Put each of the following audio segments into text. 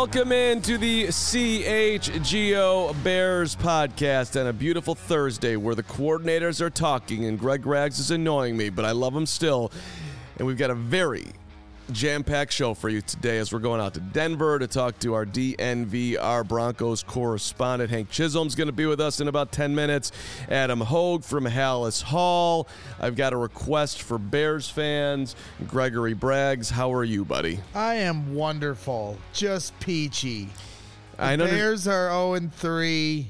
Welcome into the CHGO Bears podcast on a beautiful Thursday where the coordinators are talking and Greg Rags is annoying me, but I love him still. And we've got a very jam-packed show for you today as we're going out to Denver to talk to our DNVR Broncos correspondent. Hank Chisholm's going to be with us in about 10 minutes. Adam Hogue from Hallis Hall. I've got a request for Bears fans. Gregory Braggs, how are you, buddy? I am wonderful. Just peachy. I know Bears are 0-3.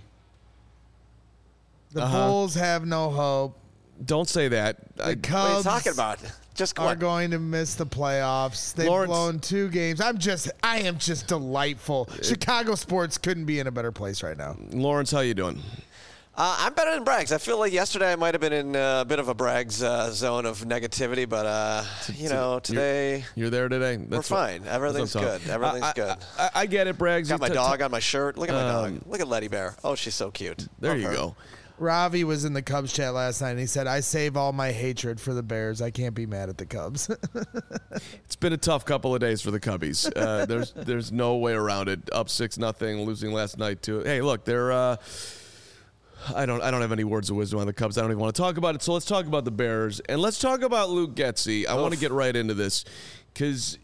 The Bulls have no hope. Don't say that. The Cubs what are you talking about? Just are going to miss the playoffs. They've blown 2 games. I am just delightful. Chicago sports couldn't be in a better place right now. Lawrence, how you doing? I'm better than Braggs. I feel like yesterday I might have been in a bit of a Braggs zone of negativity, but today you're there today. We're fine. Everything's good. Everything's good. I get it, Braggs. Got my dog on my shirt. Look at my dog. Look at Letty Bear. Oh, she's so cute. There you go. Ravi was in the Cubs chat last night, and he said, I save all my hatred for the Bears. I can't be mad at the Cubs. It's been a tough couple of days for the Cubbies. There's no way around it. Up 6-0, losing last night too. Hey, look, they're I don't have any words of wisdom on the Cubs. I don't even want to talk about it. So let's talk about the Bears, and let's talk about Luke Getsy. I want to get right into this because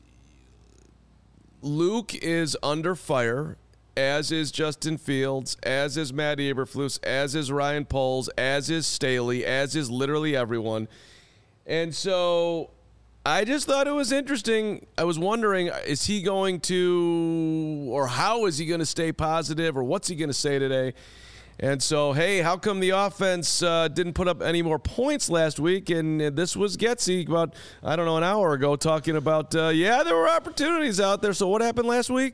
Luke is under fire, as is Justin Fields, as is Matt Eberflus, as is Ryan Poles, as is Staley, as is literally everyone. And so I just thought it was interesting. I was wondering, is he going to, or how is he going to stay positive, or what's he going to say today? And so, hey, how come the offense didn't put up any more points last week? And this was Getsy about, an hour ago talking about, there were opportunities out there. So what happened last week?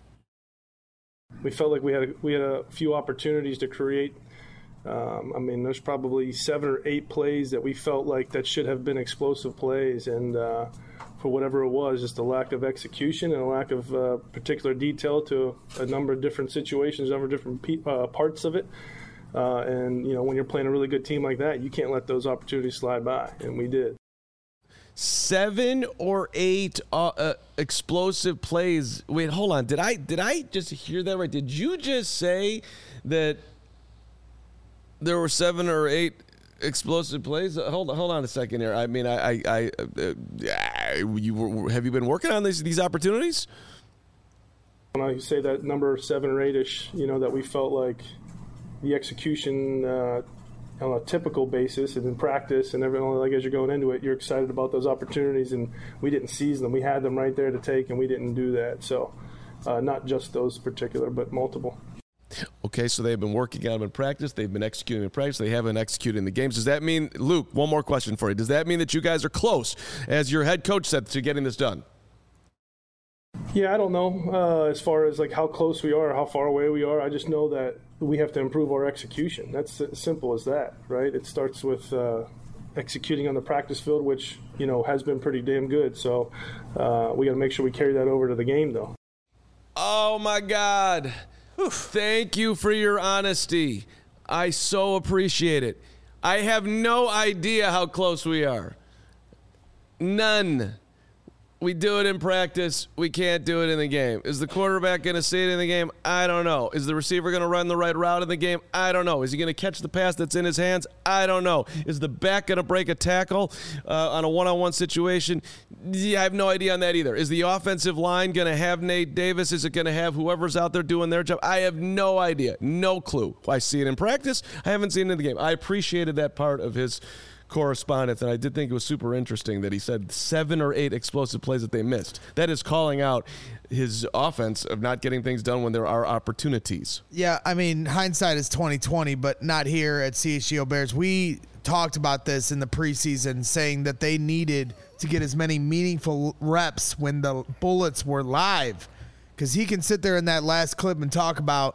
We felt like we had a few opportunities to create. There's probably 7 or 8 plays that we felt like that should have been explosive plays, and for whatever it was, just a lack of execution and a lack of particular detail to a number of different situations, a number of different parts of it. When you're playing a really good team like that, you can't let those opportunities slide by, and we did. 7 or 8 explosive plays. Wait, hold on. Did I just hear that right? Did you just say that there were 7 or 8 explosive plays? Hold on a second here. I mean, have you been working on these opportunities? When I say that number 7 or 8-ish, that we felt like the execution on a typical basis and in practice and everything, like as you're going into it, you're excited about those opportunities, and we didn't seize them. We had them right there to take, and we didn't do that. So not just those particular, but multiple. Okay, so they've been working on them in practice. They've been executing in practice. They haven't executed in the games. Does that mean, Luke, one more question for you. Does that mean that you guys are close, as your head coach said, to getting this done? Yeah, I don't know as far as like how close we are, how far away we are. I just know that we have to improve our execution. That's as simple as that, right? It starts with executing on the practice field, which, has been pretty damn good. So we got to make sure we carry that over to the game, though. Oh, my God. Thank you for your honesty. I so appreciate it. I have no idea how close we are. None. We do it in practice. We can't do it in the game. Is the quarterback going to see it in the game? I don't know. Is the receiver going to run the right route in the game? I don't know. Is he going to catch the pass that's in his hands? I don't know. Is the back going to break a tackle on a one-on-one situation? Yeah, I have no idea on that either. Is the offensive line going to have Nate Davis? Is it going to have whoever's out there doing their job? I have no idea. No clue. I see it in practice. I haven't seen it in the game. I appreciated that part of his correspondence, and I did think it was super interesting that he said 7 or 8 explosive plays that they missed. That is calling out his offense of not getting things done when there are opportunities. Yeah, I mean, hindsight is 20/20, but not here at CHGO Bears. We talked about this in the preseason, saying that they needed to get as many meaningful reps when the bullets were live, because he can sit there in that last clip and talk about,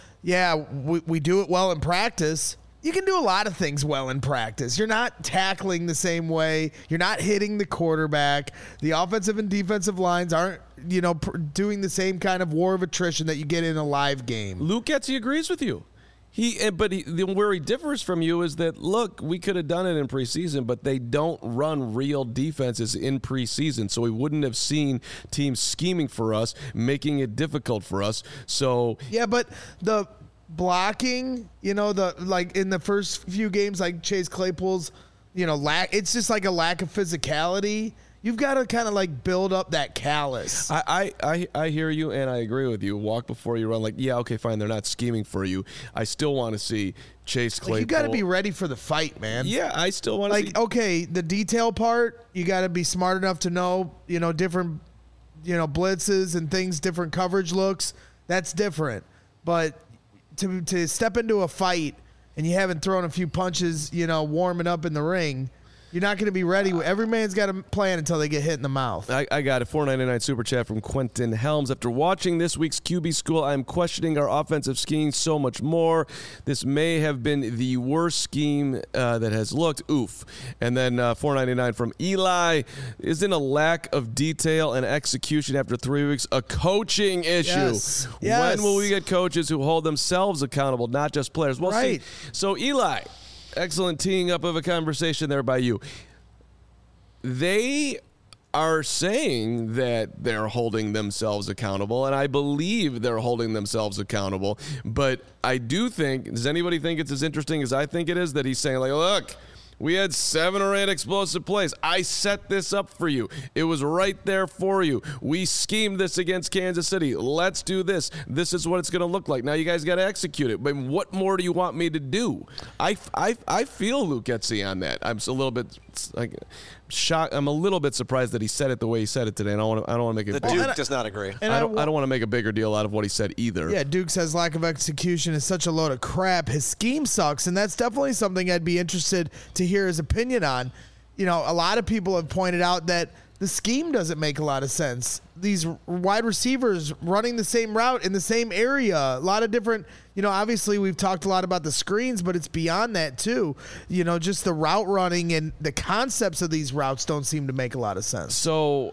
we do it well in practice. You can do a lot of things well in practice. You're not tackling the same way. You're not hitting the quarterback. The offensive and defensive lines aren't, doing the same kind of war of attrition that you get in a live game. Luke Getsy agrees with you. Where he differs from you is that, look, we could have done it in preseason, but they don't run real defenses in preseason, so we wouldn't have seen teams scheming for us, making it difficult for us. So yeah, but the blocking, in the first few games, like Chase Claypool's, it's just like a lack of physicality. You've got to kind of build up that callus. I hear you, and I agree with you. Walk before you run. Yeah, okay, fine. They're not scheming for you. I still want to see Chase Claypool. You got to be ready for the fight, man. Yeah, I still want to see. Okay, the detail part, you got to be smart enough to know, different, blitzes and things, different coverage looks. That's different. But to step into a fight and you haven't thrown a few punches, warming up in the ring, you're not going to be ready. Every man's got a plan until they get hit in the mouth. I got a $4.99 super chat from Quentin Helms. After watching this week's QB School, I'm questioning our offensive scheme so much more. This may have been the worst scheme that has looked. Oof. And then $4.99 from Eli. Isn't a lack of detail and execution after 3 weeks a coaching issue? Yes. When will we get coaches who hold themselves accountable, not just players? Well, right. So Eli, excellent teeing up of a conversation there by you. They are saying that they're holding themselves accountable, and I believe they're holding themselves accountable. But I do think, does anybody think it's as interesting as I think it is, that he's saying, look, we had 7 or 8 explosive plays. I set this up for you. It was right there for you. We schemed this against Kansas City. Let's do this. This is what it's going to look like. Now you guys got to execute it. But what more do you want me to do? I feel Luke Getsy on that. I'm a little bit shocked. I'm a little bit surprised that he said it the way he said it today. And I don't want to make it. The Duke does not agree. And I don't want to make a bigger deal out of what he said either. Yeah, Duke says lack of execution is such a load of crap. His scheme sucks, and that's definitely something I'd be interested to hear his opinion on. A lot of people have pointed out that the scheme doesn't make a lot of sense. These wide receivers running the same route in the same area, a lot of different, obviously we've talked a lot about the screens, but it's beyond that too. Just the route running and the concepts of these routes don't seem to make a lot of sense. So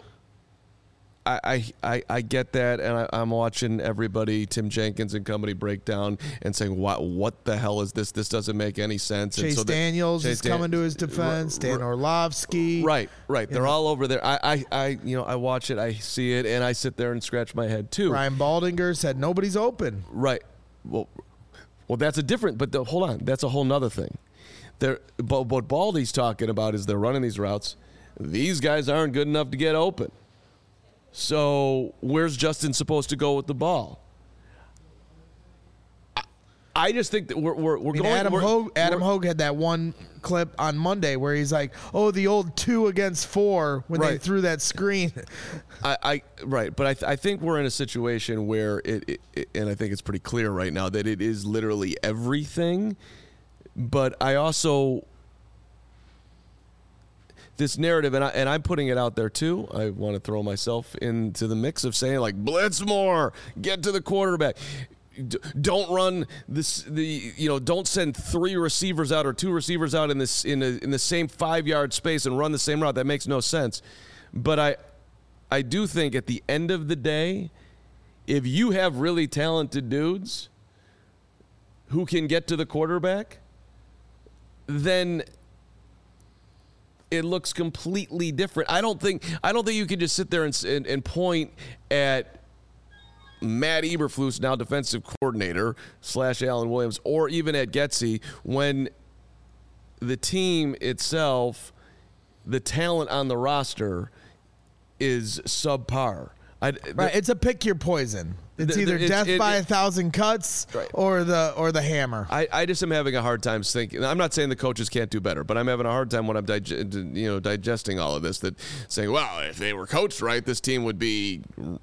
I get that, and I'm watching everybody, Tim Jenkins and company, break down and saying, what the hell is this? This doesn't make any sense. Chase Daniels is coming to his defense. Dan Orlovsky. Right. They're all over there. I watch it, I see it, and I sit there and scratch my head too. Ryan Baldinger said nobody's open. Right. Well, that's a different. But hold on, that's a whole nother thing. What Baldy's talking about is they're running these routes. These guys aren't good enough to get open. So where's Justin supposed to go with the ball? I just think that we're going. Adam Hogue had that one clip on Monday where he's like, "Oh, the old 2 against 4 when they threw that screen." But I think we're in a situation where it, and I think it's pretty clear right now that it is literally everything. But I also, this narrative, and I'm putting it out there too. I want to throw myself into the mix of saying blitz more, get to the quarterback. Don't run this. Don't send 3 receivers out or 2 receivers out in the same 5-yard space and run the same route. That makes no sense. But I do think at the end of the day, if you have really talented dudes who can get to the quarterback, then it looks completely different. I don't think you can just sit there and point at Matt Eberflus, now defensive coordinator / Alan Williams, or even at Getsy, when the team itself, the talent on the roster, is subpar. It's a pick your poison. It's either death by 1,000 cuts or the hammer. I just am having a hard time thinking. I'm not saying the coaches can't do better, but I'm having a hard time when I'm digesting all of this. That saying, well, if they were coached right, this team would be,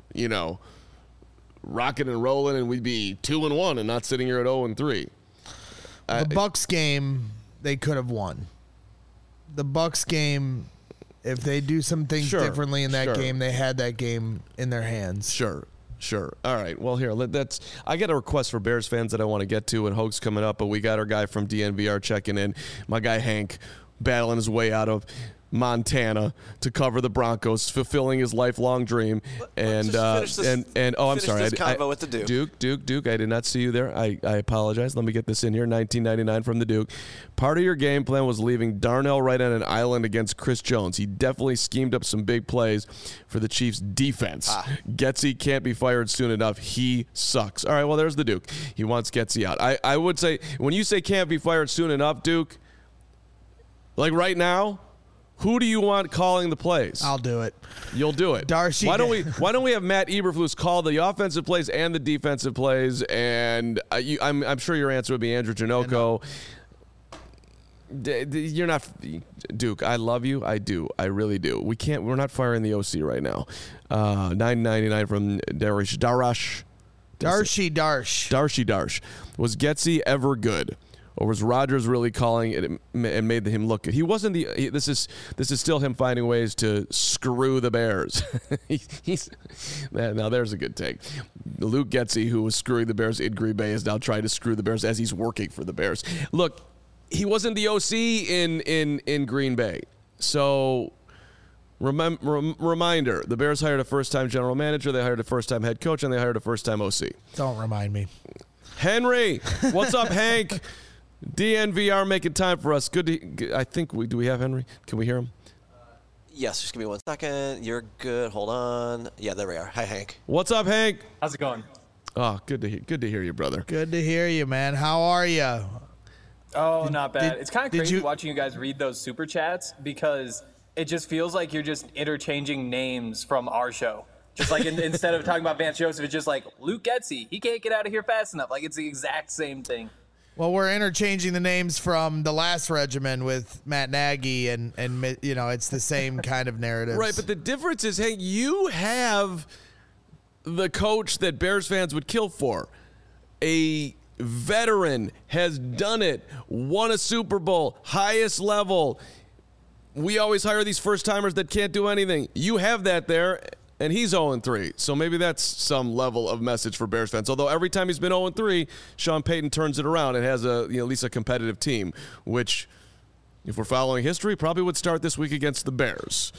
rocking and rolling, and we'd be 2-1 and not sitting here at 0-3. The Bucs game, they could have won. The Bucs game, if they do some things differently in that game, they had that game in their hands. Sure. All right. Well, here, I got a request for Bears fans that I want to get to, and Hoke's coming up, but we got our guy from DNVR checking in. My guy Hank battling his way out of Montana to cover the Broncos, fulfilling his lifelong dream. And I'm sorry, this convo with the Duke. I did not see you there. I apologize. Let me get this in here. 1999 from the Duke. Part of your game plan was leaving Darnell Wright on an island against Chris Jones. He definitely schemed up some big plays for the Chiefs' defense. Getsy can't be fired soon enough. He sucks. All right, well, there's the Duke. He wants Getsy out. I would say, when you say can't be fired soon enough, Duke, like right now, who do you want calling the plays? I'll do it. You'll do it. Darcy. Why don't we have Matt Eberflus call the offensive plays and the defensive plays? And I'm sure your answer would be Andrew Janocko. You're not Duke. I love you. I do. I really do. We're not firing the OC right now. $9.99 from Darash. Darcy Darsh. Was Getsy ever good? Or was Rodgers really calling it and made him look good? He wasn't this is still him finding ways to screw the Bears. Now there's a good take. Luke Getsy, who was screwing the Bears in Green Bay, is now trying to screw the Bears as he's working for the Bears. Look, he wasn't the OC in Green Bay. So reminder, the Bears hired a first-time general manager, they hired a first-time head coach, and they hired a first-time OC. Don't remind me. Henry, what's up, Hank? DNVR making time for us. Good. Do we have Henry? Can we hear him? Yes, just give me 1 second. You're good. Hold on. Yeah, there we are. Hi, Hank. What's up, Hank? How's it going? Oh, good to hear you, brother. Good to hear you, man. How are you? Oh, not bad. It's kind of crazy watching you guys read those super chats because it just feels like you're just interchanging names from our show. Just like instead of talking about Vance Joseph, it's just like Luke Getsy. He can't get out of here fast enough. Like it's the exact same thing. Well, we're interchanging the names from the last regimen with Matt Nagy, and it's the same kind of narrative. Right, but the difference is, hey, you have the coach that Bears fans would kill for. A veteran, has done it, won a Super Bowl, highest level. We always hire these first-timers that can't do anything. You have that there. And he's 0-3, so maybe that's some level of message for Bears fans. Although every time he's been 0-3, Sean Payton turns it around and has at least a competitive team, which, if we're following history, probably would start this week against the Bears.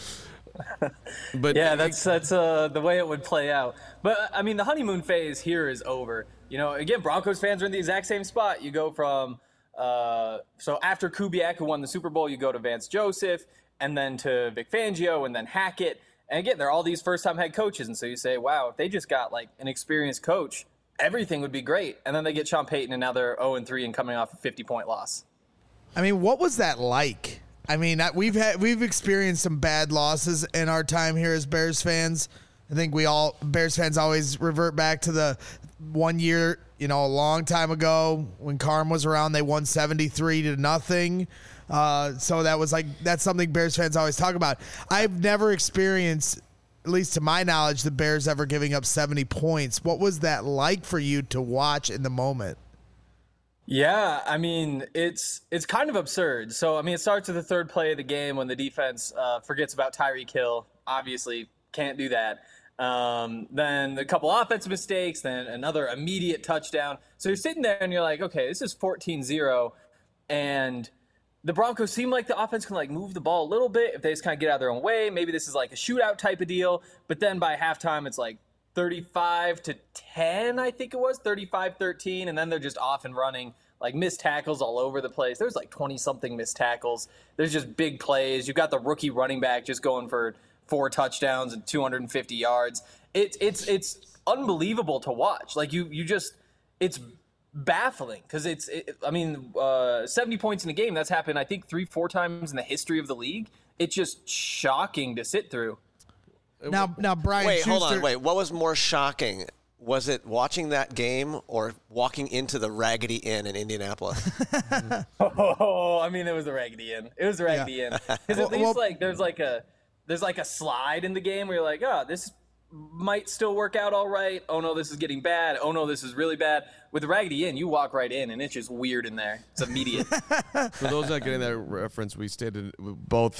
But yeah, that's the way it would play out. But I mean, the honeymoon phase here is over. Again, Broncos fans are in the exact same spot. You go from so after Kubiak, who won the Super Bowl, you go to Vance Joseph, and then to Vic Fangio, and then Hackett. And again, they're all these first-time head coaches, and so you say, wow, if they just got like an experienced coach, everything would be great. And then they get Sean Payton, and now they're 0-3 and coming off a 50-point loss. I mean, what was that like? I mean, we've experienced some bad losses in our time here as Bears fans. I think Bears fans always revert back to the 1 year, a long time ago when Carm was around. They won 73-0. So that's something Bears fans always talk about. I've never experienced, at least to my knowledge, the Bears ever giving up 70 points. What was that like for you to watch in the moment? Yeah, I mean, it's kind of absurd. So, I mean, it starts with the third play of the game when the defense forgets about Tyreek Hill. Obviously, can't do that. Then a couple offensive mistakes, then another immediate touchdown. So you're sitting there and you're like, okay, this is 14-0, and the Broncos seem like the offense can move the ball a little bit if they just kind of get out of their own way. Maybe this is like a shootout type of deal. But then by halftime, it's like 35-10, I think it was, 35-13. And then they're just off and running, like missed tackles all over the place. There's like 20-something missed tackles. There's just big plays. You've got the rookie running back just going for 4 touchdowns and 250 yards. It's unbelievable to watch. Like you just, it's baffling because 70 points in a game, that's happened I think 3-4 times in the history of the league. It's just shocking to sit through. Now Brian wait, Schuster, hold on, what was more shocking? Was it watching that game or walking into the Raggedy Inn in Indianapolis? I mean, it was the Raggedy Inn. It was the Raggedy Inn. Because at least there's like a slide in the game where you're like, oh, this might still work out all right. Oh no, this is getting bad. Oh no, this is really bad. With the Raggedy Inn, you walk right in and it's just weird in there. It's immediate. For those not getting that reference, we stated both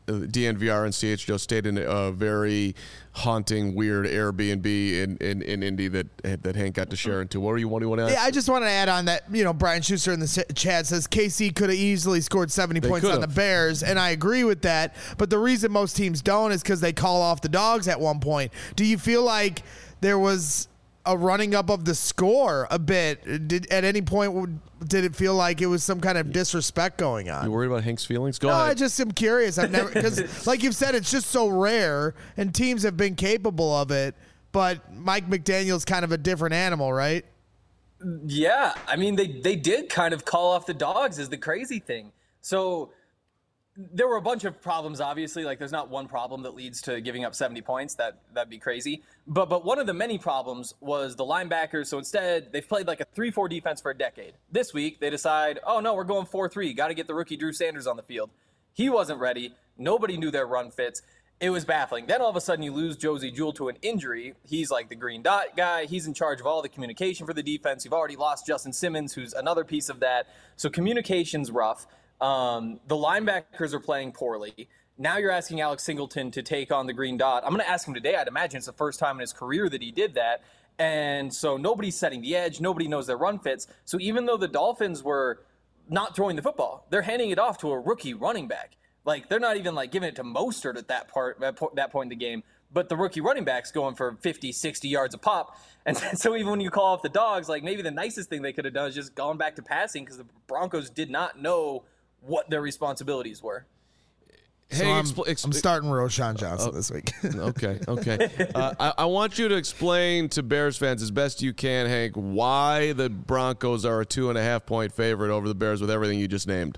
DNVR and CHGO stayed in a very haunting, weird Airbnb in Indy that Hank got to share into. What do you want to ask? Yeah, I just want to add on that, Brian Schuster in the chat says KC could have easily scored 70 points on the Bears, and I agree with that. But the reason most teams don't is because they call off the dogs at one point. Do you feel like there was a running up of the score a bit? At any point, did it feel like it was some kind of disrespect going on? You worried about Hank's feelings? Go ahead. I just am curious. I've never, because like you've said, it's just so rare, and teams have been capable of it. But Mike McDaniel's kind of a different animal, right? Yeah, I mean, they did kind of call off the dogs is the crazy thing. So there were a bunch of problems, obviously. Like, there's not one problem that leads to giving up 70 points. That'd be crazy. But one of the many problems was the linebackers. So instead, they've played like a 3-4 defense for a decade. This week, they decide, oh, no, we're going 4-3. Got to get the rookie Drew Sanders on the field. He wasn't ready. Nobody knew their run fits. It was baffling. Then all of a sudden, you lose Josie Jewell to an injury. He's like the green dot guy. He's in charge of all the communication for the defense. You've already lost Justin Simmons, who's another piece of that. So communication's rough. The linebackers are playing poorly. Now you're asking Alex Singleton to take on the green dot. I'm going to ask him today. I'd imagine it's the first time in his career that he did that. And so nobody's setting the edge. Nobody knows their run fits. So even though the Dolphins were not throwing the football, they're handing it off to a rookie running back. Like, they're not even like giving it to Mostert at that point in the game. But the rookie running back's going for 50, 60 yards a pop. And so even when you call off the dogs, like, maybe the nicest thing they could have done is just gone back to passing, because the Broncos did not know what their responsibilities were. Hey, so I'm starting Roschon Johnson this week. Okay. I want you to explain to Bears fans as best you can, Hank, why the Broncos are a 2.5 point favorite over the Bears with everything you just named.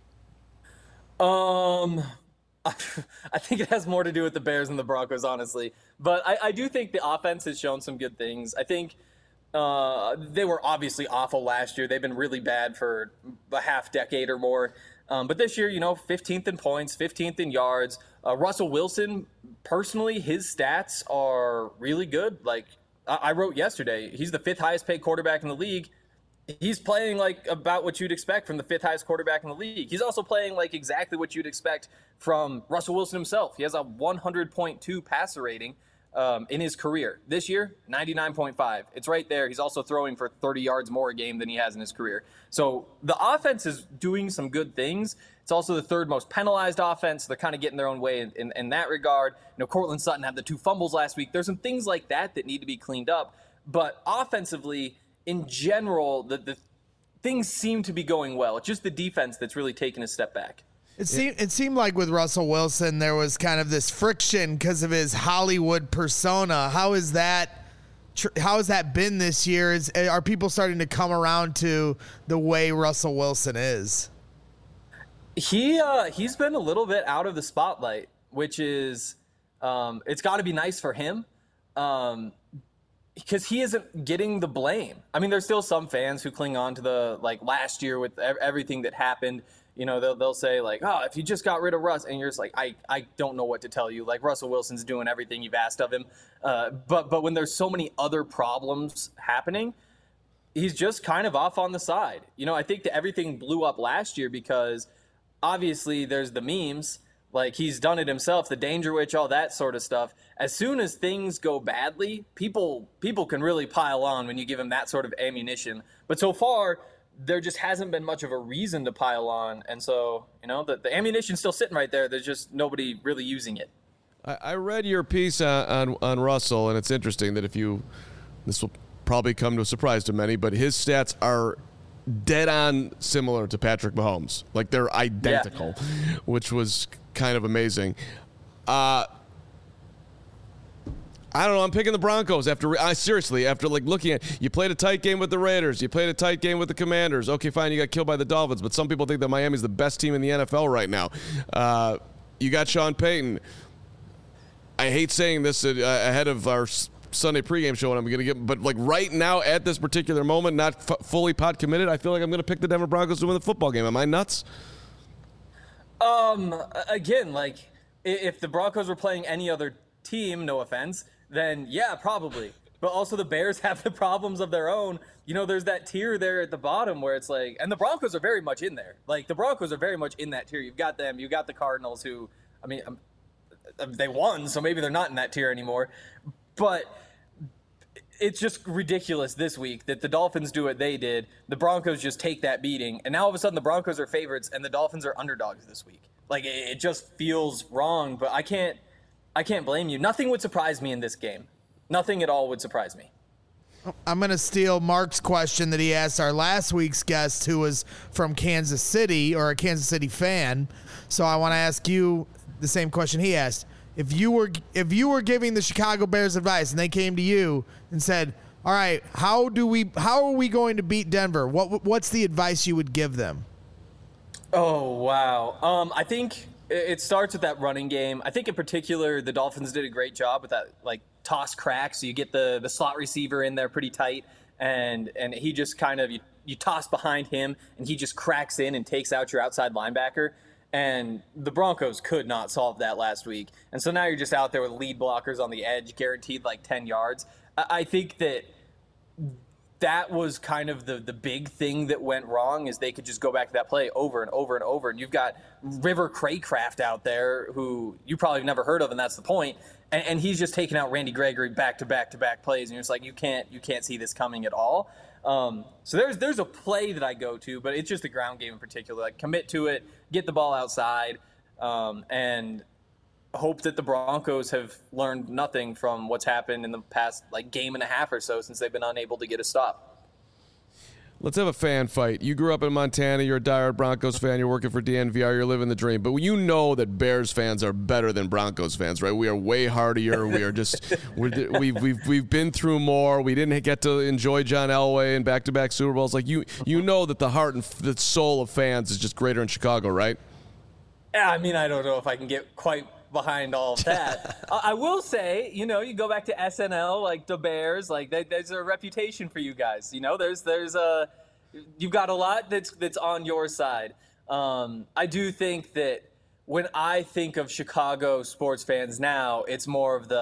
I think it has more to do with the Bears than the Broncos, honestly. But I do think the offense has shown some good things. I think they were obviously awful last year. They've been really bad for a half decade or more. But this year, 15th in points, 15th in yards. Russell Wilson, personally, his stats are really good. Like I wrote yesterday, he's the 5th highest paid quarterback in the league. He's playing like about what you'd expect from the 5th highest quarterback in the league. He's also playing like exactly what you'd expect from Russell Wilson himself. He has a 100.2 passer rating in his career. This year, 99.5. It's right there. He's also throwing for 30 yards more a game than he has in his career. So the offense is doing some good things. It's also the 3rd most penalized offense. They're kind of getting their own way in that regard. Cortland Sutton had the 2 fumbles last week. There's some things like that need to be cleaned up. But offensively, in general, the things seem to be going well. It's just the defense that's really taken a step back. It seemed like with Russell Wilson, there was kind of this friction because of his Hollywood persona. How is that been this year? Are people starting to come around to the way Russell Wilson is? He's been a little bit out of the spotlight, which is it's got to be nice for him. Because he isn't getting the blame. I mean, there's still some fans who cling on to the, like, last year with everything that happened. They'll say, like, oh, if you just got rid of Russ, and you're just like, I don't know what to tell you. Like, Russell Wilson's doing everything you've asked of him. But when there's so many other problems happening, he's just kind of off on the side. I think that everything blew up last year because obviously there's the memes. Like, he's done it himself, the Danger Witch, all that sort of stuff. As soon as things go badly, people can really pile on when you give them that sort of ammunition. But so far, there just hasn't been much of a reason to pile on. And so, the ammunition's still sitting right there. There's just nobody really using it. I read your piece on Russell, and it's interesting that this will probably come to a surprise to many, but his stats are dead on similar to Patrick Mahomes. Like, they're identical, which was kind of amazing. I don't know. I'm picking the Broncos after like looking at, you played a tight game with the Raiders, you played a tight game with the Commanders. Okay, fine, you got killed by the Dolphins, but some people think that Miami's the best team in the NFL right now. You got Sean Payton. I hate saying this ahead of our Sunday pregame show, and I'm going to get, but like right now at this particular moment, not fully pod committed, I feel like I'm going to pick the Denver Broncos to win the football game. Am I nuts? Again, like, if the Broncos were playing any other team, no offense, then yeah, probably. But also the Bears have the problems of their own. There's that tier there at the bottom where it's like, and the Broncos are very much in there. Like, the Broncos are very much in that tier. You've got them. You've got the Cardinals who, I mean, they won, so maybe they're not in that tier anymore. But it's just ridiculous this week that the Dolphins do what they did. The Broncos just take that beating, and now all of a sudden the Broncos are favorites and the Dolphins are underdogs this week. Like, it just feels wrong, but I can't blame you. Nothing would surprise me in this game. Nothing at all would surprise me. I'm going to steal Mark's question that he asked our last week's guest, who was from Kansas City, or a Kansas City fan. So I want to ask you the same question he asked. If you were giving the Chicago Bears advice and they came to you and said, "All right, how are we going to beat Denver?" What's the advice you would give them? Oh, wow. I think it starts with that running game. I think in particular the Dolphins did a great job with that, like, toss crack. So you get the slot receiver in there pretty tight, and he just kind of you toss behind him and he just cracks in and takes out your outside linebacker. And the Broncos could not solve that last week. And so now you're just out there with lead blockers on the edge, guaranteed like 10 yards. I think that was kind of the big thing that went wrong, is they could just go back to that play over and over and over. And you've got River Craycraft out there, who you probably have never heard of, and that's the point. And he's just taking out Randy Gregory back-to-back plays. And you're just like, you can't see this coming at all. So there's a play that I go to, but it's just the ground game in particular. Like, commit to it, get the ball outside, and hope that the Broncos have learned nothing from what's happened in the past, like, game and a half or so since they've been unable to get a stop. Let's have a fan fight. You grew up in Montana. You're a diehard Broncos fan. You're working for DNVR. You're living the dream. But you know that Bears fans are better than Broncos fans, right? We are way hardier. We are just we've been through more. We didn't get to enjoy John Elway and back-to-back Super Bowls. Like, you know that the heart and the soul of fans is just greater in Chicago, right? Yeah, I mean, I don't know if I can get quite behind all of that. I will say, you go back to SNL, like the Bears, like there's a reputation for you guys. There's you've got a lot that's on your side. I do think that when I think of Chicago sports fans now, it's more of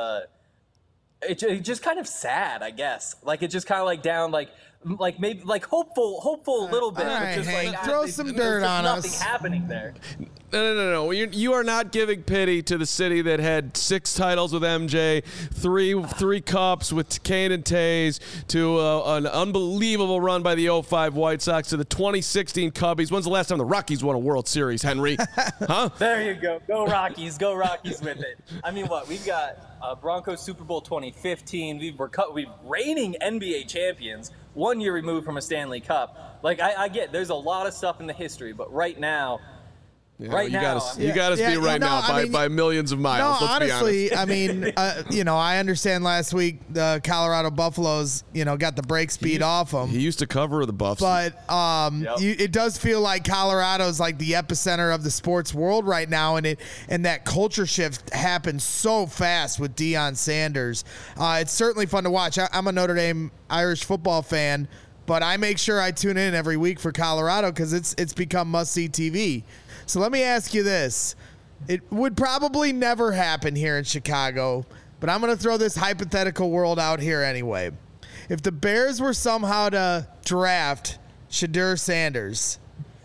it's just kind of sad, I guess. Like, it's just kind of like down, like maybe like hopeful a little bit. All right, just Hank, like, throw some dirt on us. Nothing happening there. No. You are not giving pity to the city that had 6 titles with MJ, three cups with Kane and Tays, to an unbelievable run by the 2005 White Sox, to the 2016 Cubbies. When's the last time the Rockies won a World Series, Henry? Huh? There you go. Go Rockies. Go Rockies with it. I mean, what? We've got Broncos Super Bowl 2015. We're reigning NBA champions, 1 year removed from a Stanley Cup. Like, I get there's a lot of stuff in the history, but right now, you got us beat right now by millions of miles. No, let's honestly, be honest. I mean, I understand last week the Colorado Buffaloes, got the brake speed off them. He used to cover the Buffs. But it does feel like Colorado's like the epicenter of the sports world right now, and that culture shift happened so fast with Deion Sanders. It's certainly fun to watch. I'm a Notre Dame Irish football fan, but I make sure I tune in every week for Colorado because it's become must-see TV. So let me ask you this. It would probably never happen here in Chicago, but I'm going to throw this hypothetical world out here anyway. If the Bears were somehow to draft Shedeur Sanders,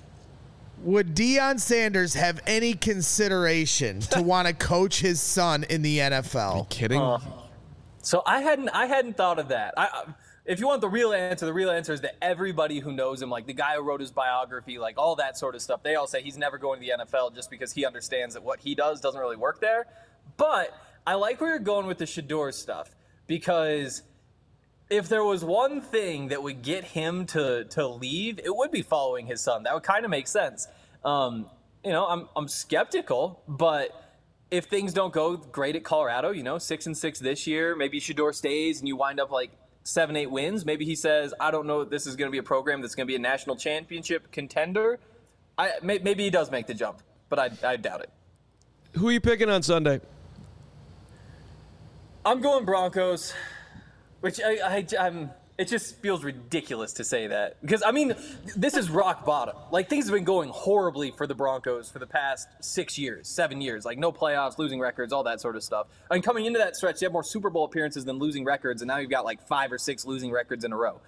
would Deion Sanders have any consideration to want to coach his son in the NFL? Are you kidding? So I hadn't thought of that. If you want the real answer is that everybody who knows him, like the guy who wrote his biography, like all that sort of stuff, they all say he's never going to the NFL just because he understands that what he does doesn't really work there. But I like where you're going with the Shedeur stuff, because if there was one thing that would get him to leave, it would be following his son. That would kind of make sense. I'm skeptical, but if things don't go great at Colorado, 6-6 this year, maybe Shedeur stays and you wind up like 7-8 wins. Maybe he says, I don't know if this is going to be a program that's going to be a national championship contender. Maybe he does make the jump, but I doubt it. Who are you picking on Sunday? I'm going Broncos, which it just feels ridiculous to say that. Because, I mean, this is rock bottom. Like, things have been going horribly for the Broncos for the past 7 years. Like, no playoffs, losing records, all that sort of stuff. I mean, coming into that stretch, you have more Super Bowl appearances than losing records, and now you've got, like, 5 or 6 losing records in a row.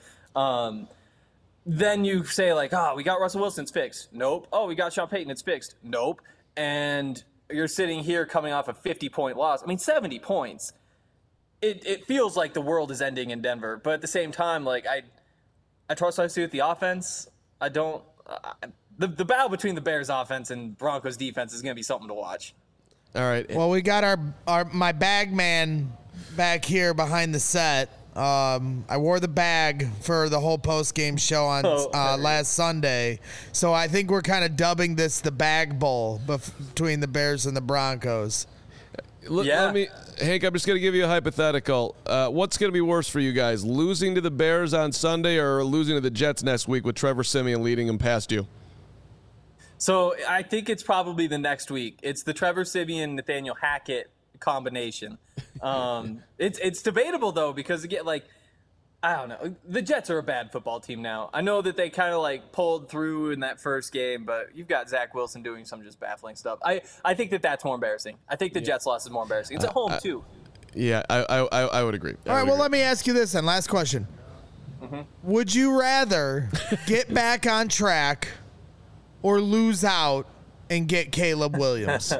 Then you say, like, we got Russell Wilson, it's fixed. Nope. Oh, we got Sean Payton, it's fixed. Nope. And you're sitting here coming off a 50-point loss. I mean, 70 points. It feels like the world is ending in Denver, but at the same time, like I trust what I see with the offense. I don't. The battle between the Bears offense and Broncos defense is going to be something to watch. All right. Well, we got my bag man back here behind the set. I wore the bag for the whole post-game show on last Sunday. So I think we're kind of dubbing this the Bag Bowl between the Bears and the Broncos. Hank, I'm just going to give you a hypothetical. What's going to be worse for you guys, losing to the Bears on Sunday or losing to the Jets next week with Trevor Siemian leading them past you? So I think it's probably the next week. It's the Trevor Siemian, Nathaniel Hackett combination. It's debatable though, because again, like, I don't know, the Jets are a bad football team now. I know that they kind of like pulled through in that first game, but you've got Zach Wilson doing some just baffling stuff. I think that's more embarrassing. I think the Jets loss is more embarrassing. It's at home too. Yeah, I would agree. All right, well, let me ask you this then. Last question. Mm-hmm. Would you rather get back on track or lose out and get Caleb Williams?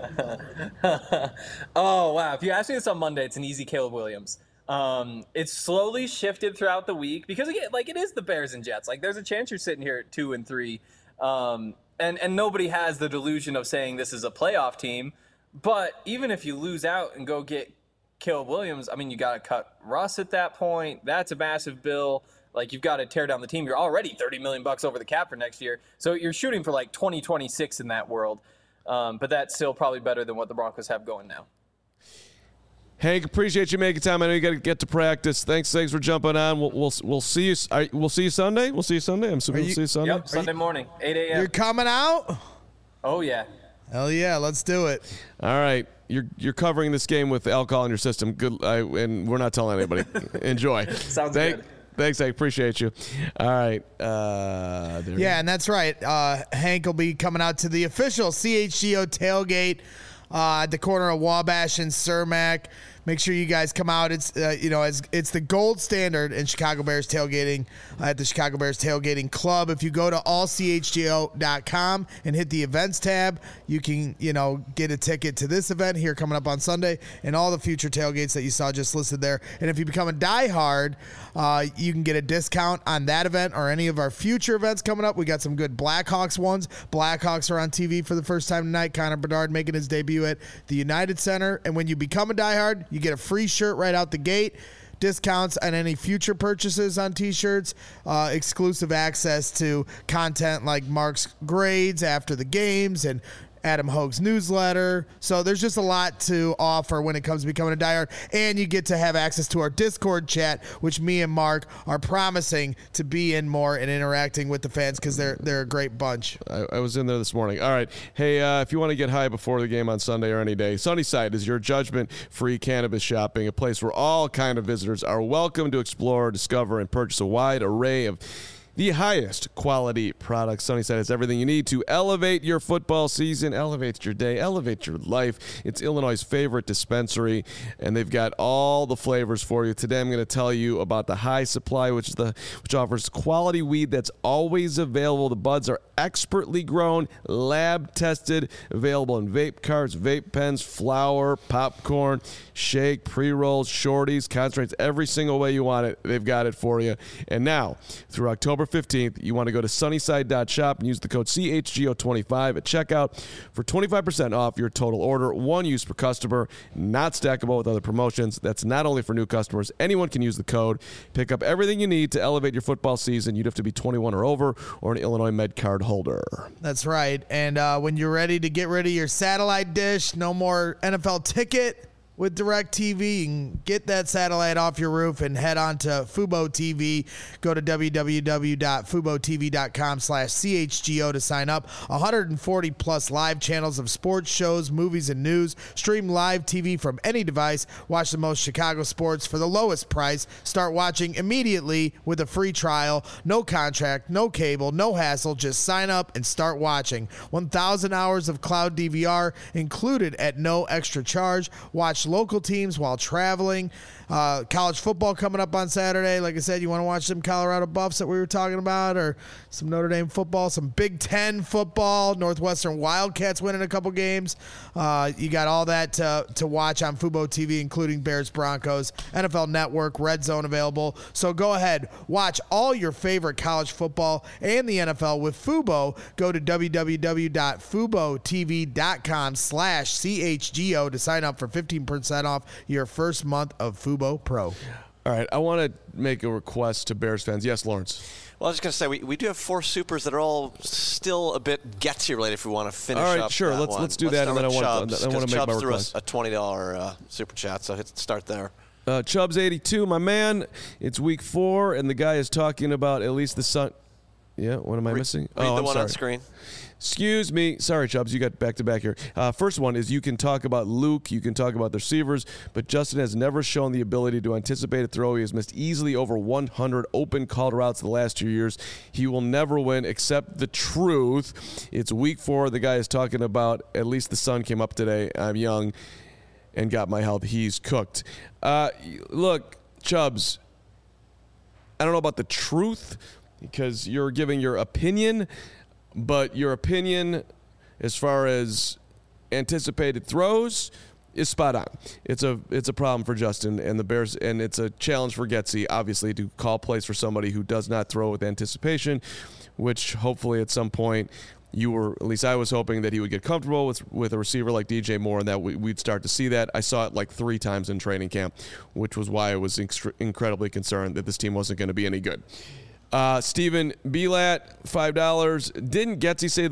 Oh, wow. If you ask me this on Monday, it's an easy Caleb Williams. It's slowly shifted throughout the week because, again, like, it is the Bears and Jets. Like, there's a chance you're sitting here at 2-3. And nobody has the delusion of saying this is a playoff team. But even if you lose out and go get Caleb Williams, I mean, you got to cut Russ at that point. That's a massive bill. Like, you've got to tear down the team. You're already $30 million over the cap for next year. So you're shooting for like 2026 in that world. But that's still probably better than what the Broncos have going now. Hank, appreciate you making time. I know you got to get to practice. Thanks for jumping on. We'll see you. We'll see you Sunday. We'll see you Sunday. I'm assuming we'll see you Sunday. Yep, Sunday morning, 8 a.m. You're coming out? Oh yeah. Hell yeah, let's do it. All right. You're covering this game with alcohol in your system. Good, and we're not telling anybody. Enjoy. Sounds good. Thanks, I appreciate you. All right. And that's right. Hank will be coming out to the official CHGO tailgate at the corner of Wabash and Cermak. Make sure you guys come out. It's it's the gold standard in Chicago Bears tailgating at the Chicago Bears Tailgating Club. If you go to allchgo.com and hit the events tab, you can get a ticket to this event here coming up on Sunday and all the future tailgates that you saw just listed there. And if you become a diehard, you can get a discount on that event or any of our future events coming up. We got some good Blackhawks ones. Blackhawks are on TV for the first time tonight. Connor Bedard making his debut at the United Center. And when you become a diehard, you get a free shirt right out the gate, discounts on any future purchases on T-shirts, exclusive access to content like Mark's grades after the games and Adam Hogue's newsletter. So there's just a lot to offer when it comes to becoming a diehard. And you get to have access to our Discord chat, which me and Mark are promising to be in more and interacting with the fans because they're a great bunch. I was in there this morning. All right. Hey, if you want to get high before the game on Sunday or any day, Sunnyside is your judgment-free cannabis shopping, a place where all kind of visitors are welcome to explore, discover, and purchase a wide array of the highest quality products. Sunnyside has everything you need to elevate your football season, elevate your day, elevate your life. It's Illinois' favorite dispensary, and they've got all the flavors for you. Today I'm going to tell you about the High Supply, which offers quality weed that's always available. The buds are expertly grown, lab tested, available in vape carts, vape pens, flour, popcorn, shake, pre-rolls, shorties, concentrates, every single way you want it. They've got it for you. And now, through October 15th, you want to go to sunnyside.shop and use the code CHGO25 at checkout for 25% off your total order. One use per customer, not stackable with other promotions. That's not only for new customers. Anyone can use the code. Pick up everything you need to elevate your football season. You'd have to be 21 or over or an Illinois Med card holder. That's right. And when you're ready to get rid of your satellite dish, no more NFL ticket with DirecTV. You can get that satellite off your roof and head on to Fubo TV. Go to www.FuboTV.com/CHGO to sign up. 140 plus live channels of sports, shows, movies, and news. Stream live TV from any device. Watch the most Chicago sports for the lowest price. Start watching immediately with a free trial. No contract, no cable, no hassle. Just sign up and start watching. 1,000 hours of cloud DVR included at no extra charge. Watch local teams while traveling. College football coming up on Saturday. Like I said, you want to watch some Colorado Buffs that we were talking about, or some Notre Dame football, some Big Ten football, Northwestern Wildcats winning a couple games. You got all that to watch on Fubo TV, including Bears Broncos, NFL Network, Red Zone available. So go ahead, watch all your favorite college football and the NFL with Fubo. Go to www.FuboTV.com/CHGO to sign up for 15% off your first month of Fubo Pro. All right, I want to make a request to Bears fans. Yes, Lawrence. Well, I was just going to say, we do have 4 supers that are all still a bit Getsy related if we want to finish up. All right, sure. Let's do that, and then I want to make my request. A $20 super chat, so start there. Chubbs 82, my man. It's week 4, and the guy is talking about at least the Sun. Yeah, what am I missing? Read the I'm one sorry. on screen. Excuse me. Sorry, Chubbs. You got back-to-back here. First one is you can talk about Luke. You can talk about the receivers, but Justin has never shown the ability to anticipate a throw. He has missed easily over 100 open called routes the last 2 years. He will never win. Accept the truth. It's week 4. The guy is talking about at least the sun came up today. I'm young and got my health. He's cooked. Look, Chubbs, I don't know about the truth because you're giving your opinion. But your opinion as far as anticipated throws is spot on. It's a problem for Justin and the Bears, and it's a challenge for Getsy, obviously, to call plays for somebody who does not throw with anticipation, which hopefully at some point at least I was hoping that he would get comfortable with a receiver like DJ Moore and that we'd start to see that. I saw it like 3 times in training camp, which was why I was incredibly concerned that this team wasn't going to be any good. Steven Belat, $5. Didn't Getsy say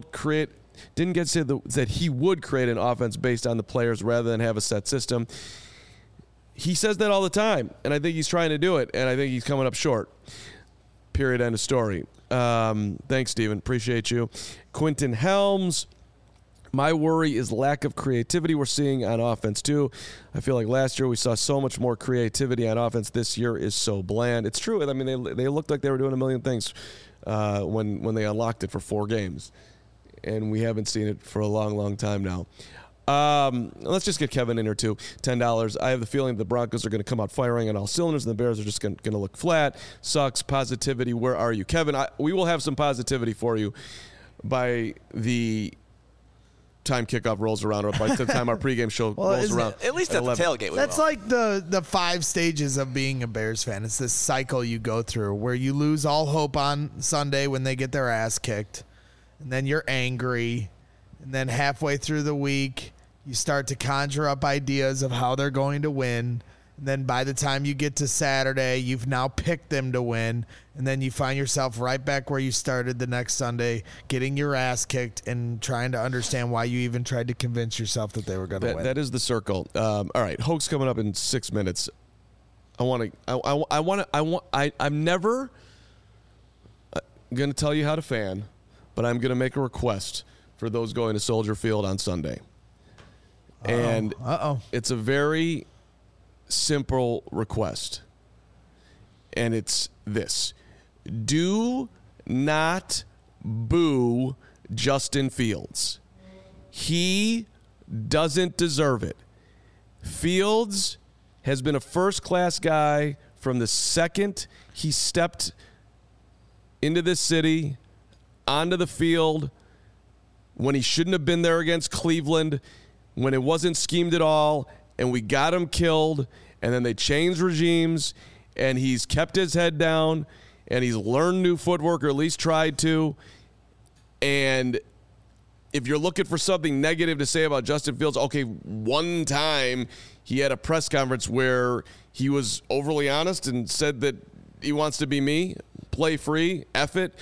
that he would create an offense based on the players rather than have a set system? He says that all the time, and I think he's trying to do it, and I think he's coming up short. Period, end of story. Thanks, Steven. Appreciate you. Quentin Helms. My worry is lack of creativity we're seeing on offense, too. I feel like last year we saw so much more creativity on offense. This year is so bland. It's true. I mean, they looked like they were doing a million things when they unlocked it for 4 games. And we haven't seen it for a long, long time now. Let's just get Kevin in here, too. $10. I have the feeling the Broncos are going to come out firing on all cylinders, and the Bears are just going to look flat. Sucks. Positivity. Where are you? Kevin, we will have some positivity for you by the time kickoff rolls around, or by the time our pregame show rolls around. At least at the tailgate. That's like the 5 stages of being a Bears fan. It's this cycle you go through where you lose all hope on Sunday when they get their ass kicked, and then you're angry, and then halfway through the week you start to conjure up ideas of how they're going to win. And then by the time you get to Saturday, you've now picked them to win. And then you find yourself right back where you started the next Sunday, getting your ass kicked and trying to understand why you even tried to convince yourself that they were going to win. That is the circle. All right, Hoke's coming up in 6 minutes. I'm never going to tell you how to fan, but I'm going to make a request for those going to Soldier Field on Sunday. And it's a very simple request, and it's this: do not boo Justin Fields. He doesn't deserve it. Fields has been a first-class guy from the second he stepped into this city, onto the field, when he shouldn't have been there against Cleveland, when it wasn't schemed at all, and we got him killed, and then they changed regimes, and he's kept his head down, and he's learned new footwork, or at least tried to. And if you're looking for something negative to say about Justin Fields, okay, one time he had a press conference where he was overly honest and said that he wants to be me, play free, F it.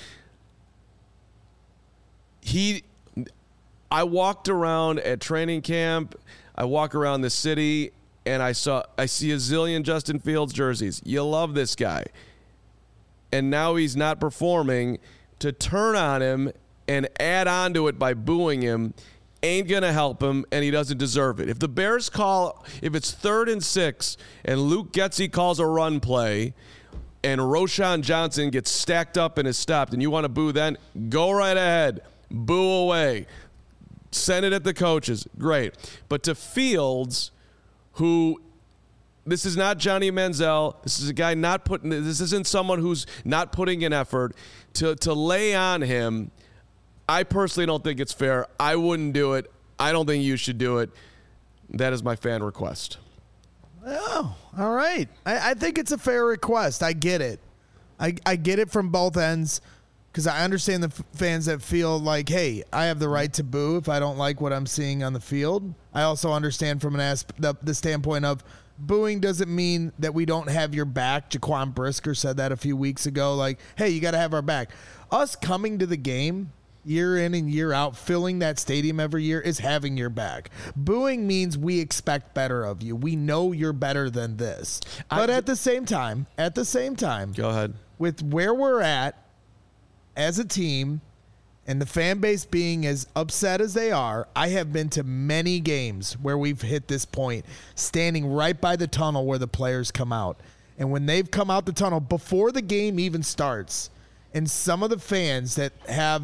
I walked around at training camp, I walk around the city, and I see a zillion Justin Fields jerseys. You love this guy. And now he's not performing. To turn on him and add on to it by booing him ain't going to help him, and he doesn't deserve it. If the Bears if it's 3rd and 6 and Luke Getsy calls a run play and Roschon Johnson gets stacked up and is stopped and you want to boo then, go right ahead. Boo away. Send it at the coaches. Great. But to Fields, who this is not Johnny Manziel. This is a guy this isn't someone who's not putting in effort to lay on him. I personally don't think it's fair. I wouldn't do it. I don't think you should do it. That is my fan request. Oh, all right. I think it's a fair request. I get it. I get it from both ends because I understand the fans that feel like, hey, I have the right to boo if I don't like what I'm seeing on the field. I also understand from the standpoint of booing doesn't mean that we don't have your back. Jaquan Brisker said that a few weeks ago, like, hey, you got to have our back. Us coming to the game year in and year out, filling that stadium every year is having your back. Booing means we expect better of you. We know you're better than this. But at the same time, go ahead. With where we're at as a team and the fan base being as upset as they are, I have been to many games where we've hit this point, standing right by the tunnel where the players come out. And when they've come out the tunnel before the game even starts, and some of the fans that have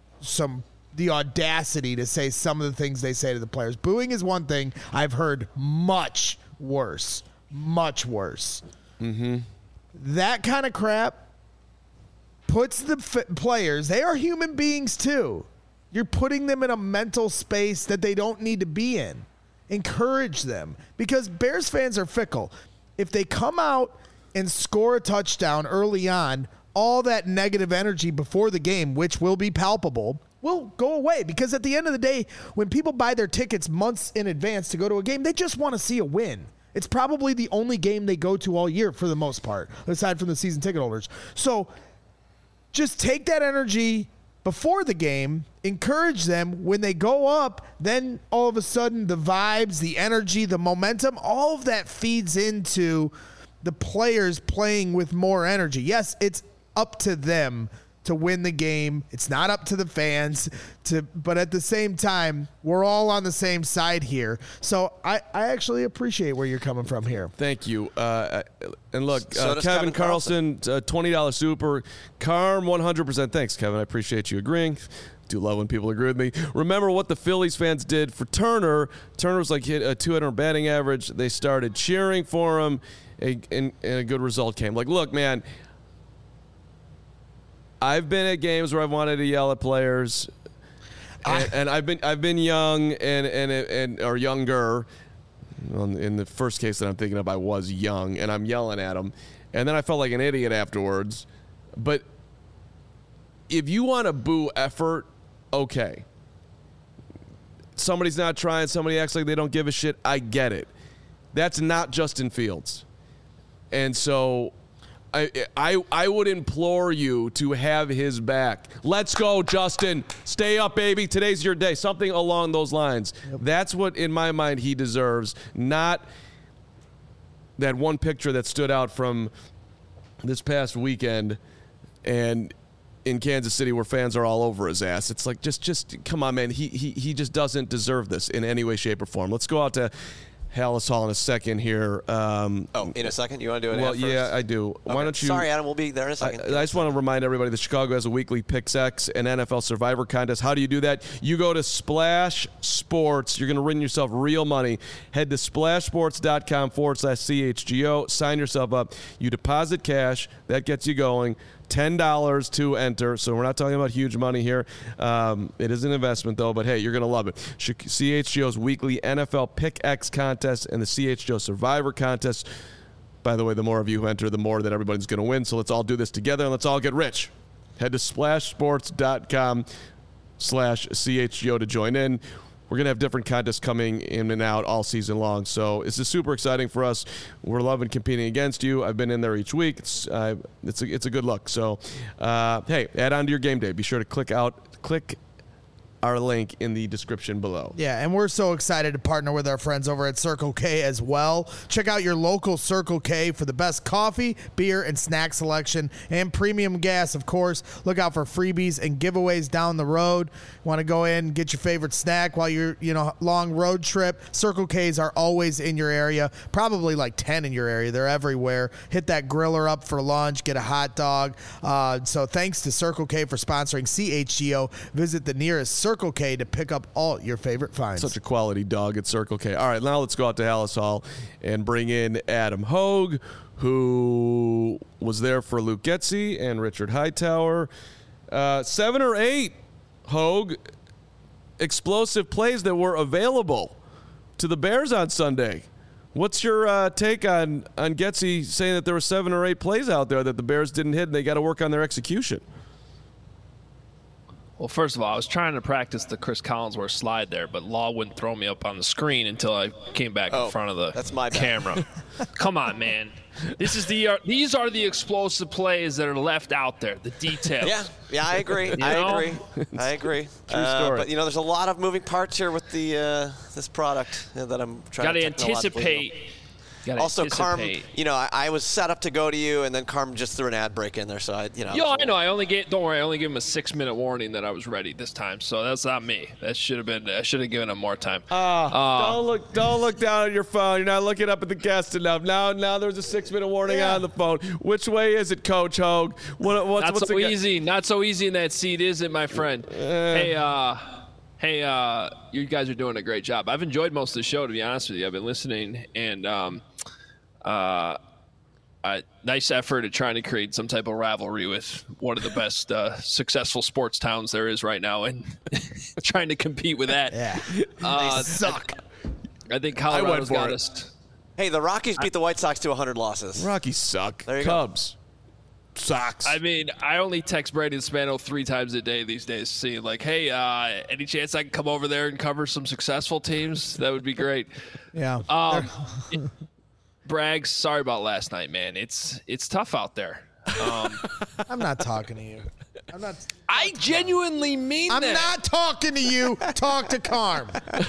the audacity to say some of the things they say to the players. Booing is one thing. I've heard much worse. Mm-hmm. That kind of crap puts the players, they are human beings too. You're putting them in a mental space that they don't need to be in. Encourage them because Bears fans are fickle. If they come out and score a touchdown early on, all that negative energy before the game, which will be palpable, will go away. Because at the end of the day, when people buy their tickets months in advance to go to a game, they just want to see a win. It's probably the only game they go to all year for the most part, aside from the season ticket holders. So just take that energy before the game, encourage them. When they go up, then all of a sudden the vibes, the energy, the momentum, all of that feeds into the players playing with more energy. Yes, it's up to them to win the game. It's not up to the fans but at the same time, we're all on the same side here. So I actually appreciate where you're coming from here. Thank you. And look, So Kevin Carlson, $20 super. Carm, 100%. Thanks, Kevin. I appreciate you agreeing. Do love when people agree with me. Remember what the Phillies fans did for Turner. Turner was like hit a 200 batting average. They started cheering for him, and a good result came. Like, look, man, I've been at games where I've wanted to yell at players, and I've been young and or younger. In the first case that I'm thinking of, I was young, and I'm yelling at them, and then I felt like an idiot afterwards. But if you want to boo effort, okay. Somebody's not trying. Somebody acts like they don't give a shit. I get it. That's not Justin Fields, and so I would implore you to have his back. Let's go, Justin. Stay up, baby. Today's your day. Something along those lines. Yep. That's what, in my mind, he deserves. Not that one picture that stood out from this past weekend and in Kansas City where fans are all over his ass. It's like, just come on, man. He just doesn't deserve this in any way, shape, or form. Let's go out to Halas Hall in a second here. In a second? You want to do it Well, first? Yeah, I do. Okay. Why don't you? Sorry, Adam. We'll be there in a second. I just want to remind everybody that Chicago has a weekly PicksX and NFL Survivor contest. How do you do that? You go to Splash Sports. You're going to win yourself real money. Head to splashsports.com/CHGO. Sign yourself up. You deposit cash. That gets you going. $10 to enter, so we're not talking about huge money here. It is an investment, though, but hey, you're going to love it. CHGO's weekly NFL PickX contest and the CHGO Survivor contest. By the way, the more of you who enter, the more that everybody's going to win, so let's all do this together and let's all get rich. Head to splashsports.com/CHGO to join in. We're going to have different contests coming in and out all season long. So this is super exciting for us. We're loving competing against you. I've been in there each week. It's a good look. So, hey, add on to your game day. Be sure to click our link in the description below. Yeah, and we're so excited to partner with our friends over at Circle K as well. Check out your local Circle K for the best coffee, beer, and snack selection, and premium gas, of course. Look out for freebies and giveaways down the road. Want to go in and get your favorite snack while you're, long road trip? Circle Ks are always in your area, probably like 10 in your area. They're everywhere. Hit that griller up for lunch, get a hot dog. So thanks to Circle K for sponsoring CHGO. Visit the nearest Circle Circle K to pick up all your favorite finds. Such a quality dog at Circle K. All right, now let's go out to Hallis Hall and bring in Adam Hogue, who was there for Luke Getsy and Richard Hightower. 7 or 8, Hogue, explosive plays that were available to the Bears on Sunday. What's your take on Getsy saying that there were 7 or 8 plays out there that the Bears didn't hit and they got to work on their execution? Well, first of all, I was trying to practice the Chris Collinsworth slide there, but Law wouldn't throw me up on the screen until I came back in front of the camera. Come on, man. These are the explosive plays that are left out there, the details. Yeah, I agree. I agree. True story. But, there's a lot of moving parts here with the this product that I'm trying to anticipate. Also, Carm, I was set up to go to you, and then Carm just threw an ad break in there, so I know. I only gave him a 6-minute warning that I was ready this time, so that's not me. I should have given him more time. Don't look down at your phone. You're not looking up at the guest enough. Now there's a 6-minute warning on the phone. Which way is it, Coach Hogue? Not so easy in that seat, is it, my friend? Hey, you guys are doing a great job. I've enjoyed most of the show, to be honest with you. I've been listening, and nice effort at trying to create some type of rivalry with one of the best successful sports towns there is right now, and trying to compete with that. Yeah, they suck. I think Colorado's got us. Hey, the Rockies beat the White Sox to 100 losses. Rockies suck. There you Cubs. Sucks. I mean, I only text Brady Spano 3 times a day these days, seeing like, hey, any chance I can come over there and cover some successful teams? That would be great. Yeah. Braggs, sorry about last night, man. It's tough out there. I'm not talking to you. I genuinely mean that. I'm not talking to you. Talk to Carm.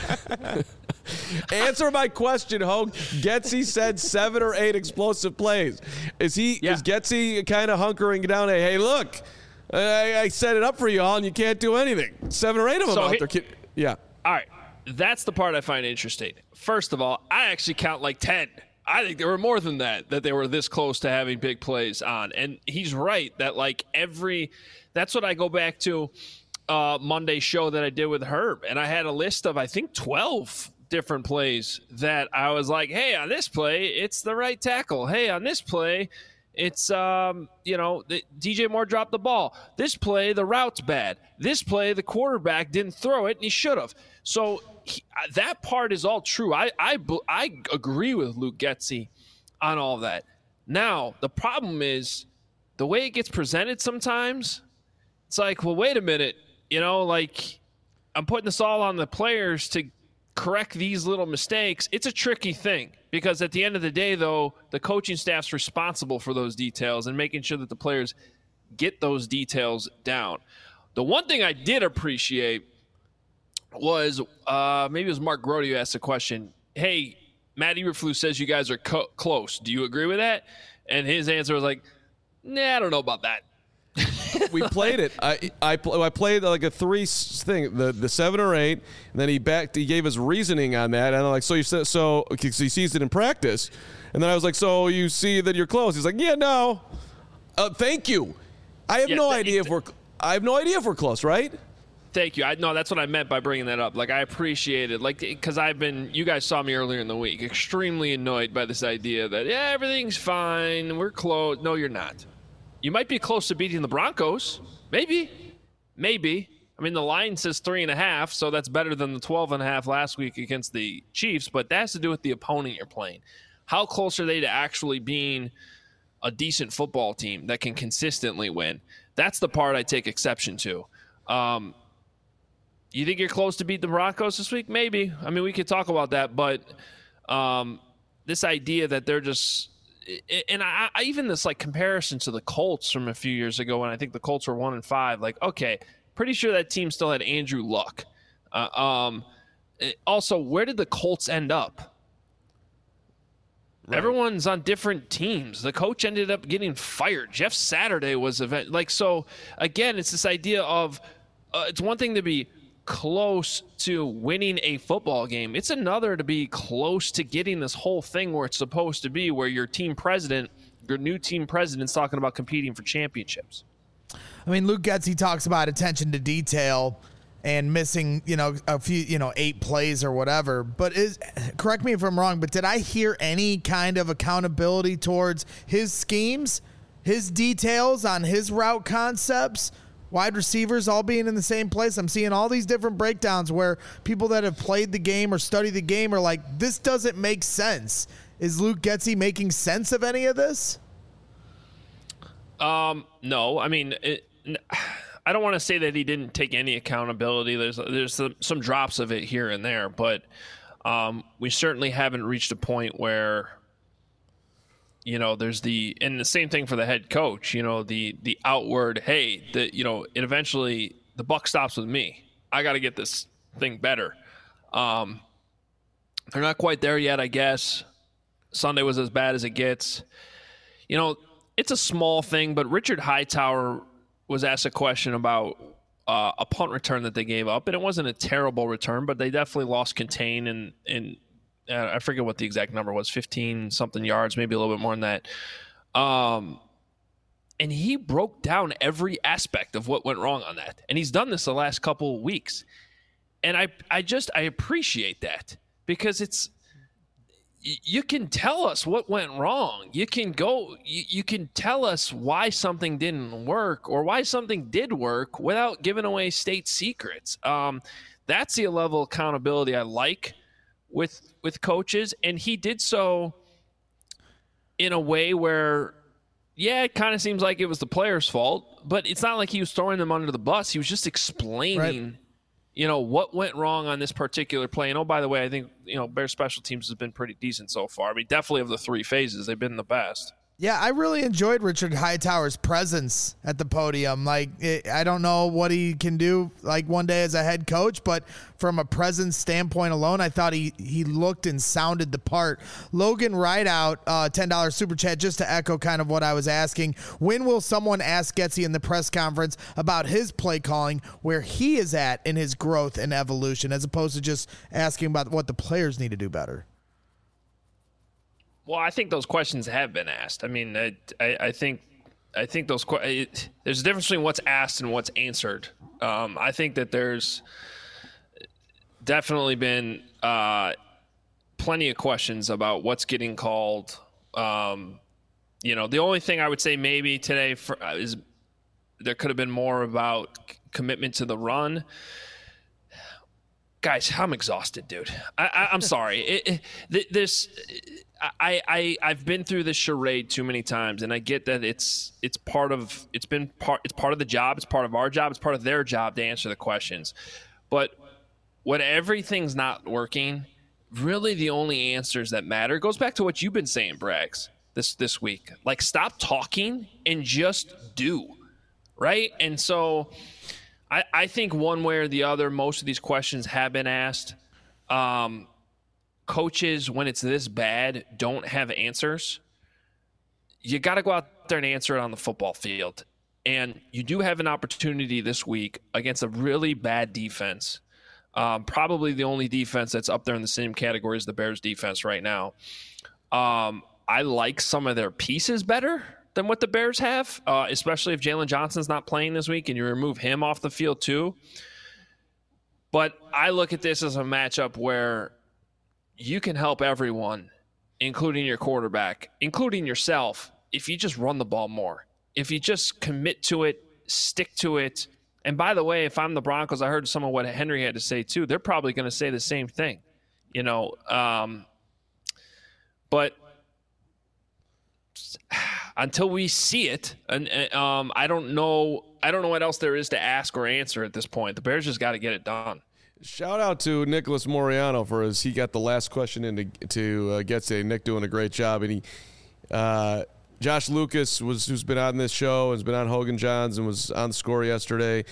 Answer my question, Hogue. Getsy said 7 or 8 explosive plays. Is Getsy kind of hunkering down? Hey, look, I set it up for you all, and you can't do anything. 7 or 8 of them out there. Yeah. All right. That's the part I find interesting. First of all, I actually count like 10. I think there were more than that they were this close to having big plays on. And he's right that that's what I go back to Monday's show that I did with Herb. And I had a list of, I think, 12 different plays that I was like, hey, on this play, it's the right tackle. Hey, on this play, it's, DJ Moore dropped the ball. This play, the route's bad. This play, the quarterback didn't throw it, and he should have. So that part is all true. I agree with Luke Getsy on all of that. Now, the problem is the way it gets presented sometimes, it's like, well, wait a minute. I'm putting this all on the players to correct these little mistakes. It's a tricky thing because at the end of the day, though, the coaching staff's responsible for those details and making sure that the players get those details down. The one thing I did appreciate was maybe it was Mark Grody who asked the question, hey, Matt Eberflus says you guys are close. Do you agree with that? And his answer was like, nah, I don't know about that. We played it. I played like a 3 thing, the 7 or 8, and then he gave us reasoning on that, and I'm like, so he sees it in practice, and then I was like, so you see that you're close? He's like, yeah, no, thank you. I have no idea if we're close, right? Thank you. No, that's what I meant by bringing that up. Like, I appreciate it. Like, because you guys saw me earlier in the week, extremely annoyed by this idea that, yeah, everything's fine, we're close. No, you're not. You might be close to beating the Broncos. Maybe. I mean, the line says 3.5, so that's better than the 12.5 last week against the Chiefs, but that has to do with the opponent you're playing. How close are they to actually being a decent football team that can consistently win? That's the part I take exception to. You think you're close to beat the Broncos this week? Maybe. I mean, we could talk about that, but this idea that they're just – and I even this like comparison to the Colts from a few years ago when I think the Colts were 1-5, like, okay, pretty sure that team still had Andrew Luck. Also, where did the Colts end up? Right. Everyone's on different teams. The coach ended up getting fired. Jeff Saturday was so again, it's this idea of it's one thing to be close to winning a football game. It's another to be close to getting this whole thing where it's supposed to be, where your new team president's talking about competing for championships. I mean, Luke Getsy talks about attention to detail, and missing, a few, 8 plays or whatever. But correct me if I'm wrong, but did I hear any kind of accountability towards his schemes, his details on his route concepts, wide receivers all being in the same place? I'm seeing all these different breakdowns where people that have played the game or studied the game are like, this doesn't make sense. Is Luke Getsy making sense of any of this? No. I mean, I don't want to say that he didn't take any accountability. There's some drops of it here and there, but we certainly haven't reached a point where, there's and the same thing for the head coach, the outward, hey, it eventually the buck stops with me. I got to get this thing better. They're not quite there yet, I guess. Sunday was as bad as it gets. It's a small thing, but Richard Hightower was asked a question about a punt return that they gave up, and it wasn't a terrible return, but they definitely lost contain, and I forget what the exact number was, 15-something yards, maybe a little bit more than that. And he broke down every aspect of what went wrong on that, and he's done this the last couple of weeks. And I appreciate that, because you can tell us what went wrong. You can tell us why something didn't work or why something did work without giving away state secrets. That's the level of accountability I like with coaches. And he did so in a way where, it kind of seems like it was the player's fault, but it's not like he was throwing them under the bus. He was just explaining what went wrong on this particular play. And, oh, by the way, I think, Bears special teams has been pretty decent so far. I mean, definitely of the 3 phases, they've been the best. Yeah, I really enjoyed Richard Hightower's presence at the podium. I don't know what he can do one day as a head coach, but from a presence standpoint alone, I thought he looked and sounded the part. Logan Rideout, $10 super chat, just to echo kind of what I was asking. When will someone ask Getsy in the press conference about his play calling, where he is at in his growth and evolution, as opposed to just asking about what the players need to do better? Well, I think those questions have been asked. I mean, I think those there's a difference between what's asked and what's answered. I think that there's definitely been plenty of questions about what's getting called. The only thing I would say maybe today is there could have been more about commitment to the run. Guys, I'm exhausted, dude. I'm sorry. I've been through this charade too many times, and I get that it's part of the job. It's part of our job. It's part of their job to answer the questions. But when everything's not working, really the only answers that matter goes back to what you've been saying, Braggs, this week. Stop talking and just do, right? And so I think one way or the other, most of these questions have been asked. Coaches, when it's this bad, don't have answers. You got to go out there and answer it on the football field. And you do have an opportunity this week against a really bad defense. Probably the only defense that's up there in the same category as the Bears defense right now. I like some of their pieces better than what the Bears have, especially if Jalen Johnson's not playing this week and you remove him off the field too. But I look at this as a matchup where you can help everyone, including your quarterback, including yourself, if you just run the ball more. If you just commit to it, stick to it. And by the way, if I'm the Broncos, I heard some of what Henry had to say too. They're probably going to say the same thing, but until we see it, and I don't know what else there is to ask or answer at this point. The Bears just got to get it done. Shout out to Nicholas Moriano he got the last question in to Getsy. Nick doing a great job, and Josh Lucas who's been on this show, has been on Hogan Johns and was on the Score yesterday.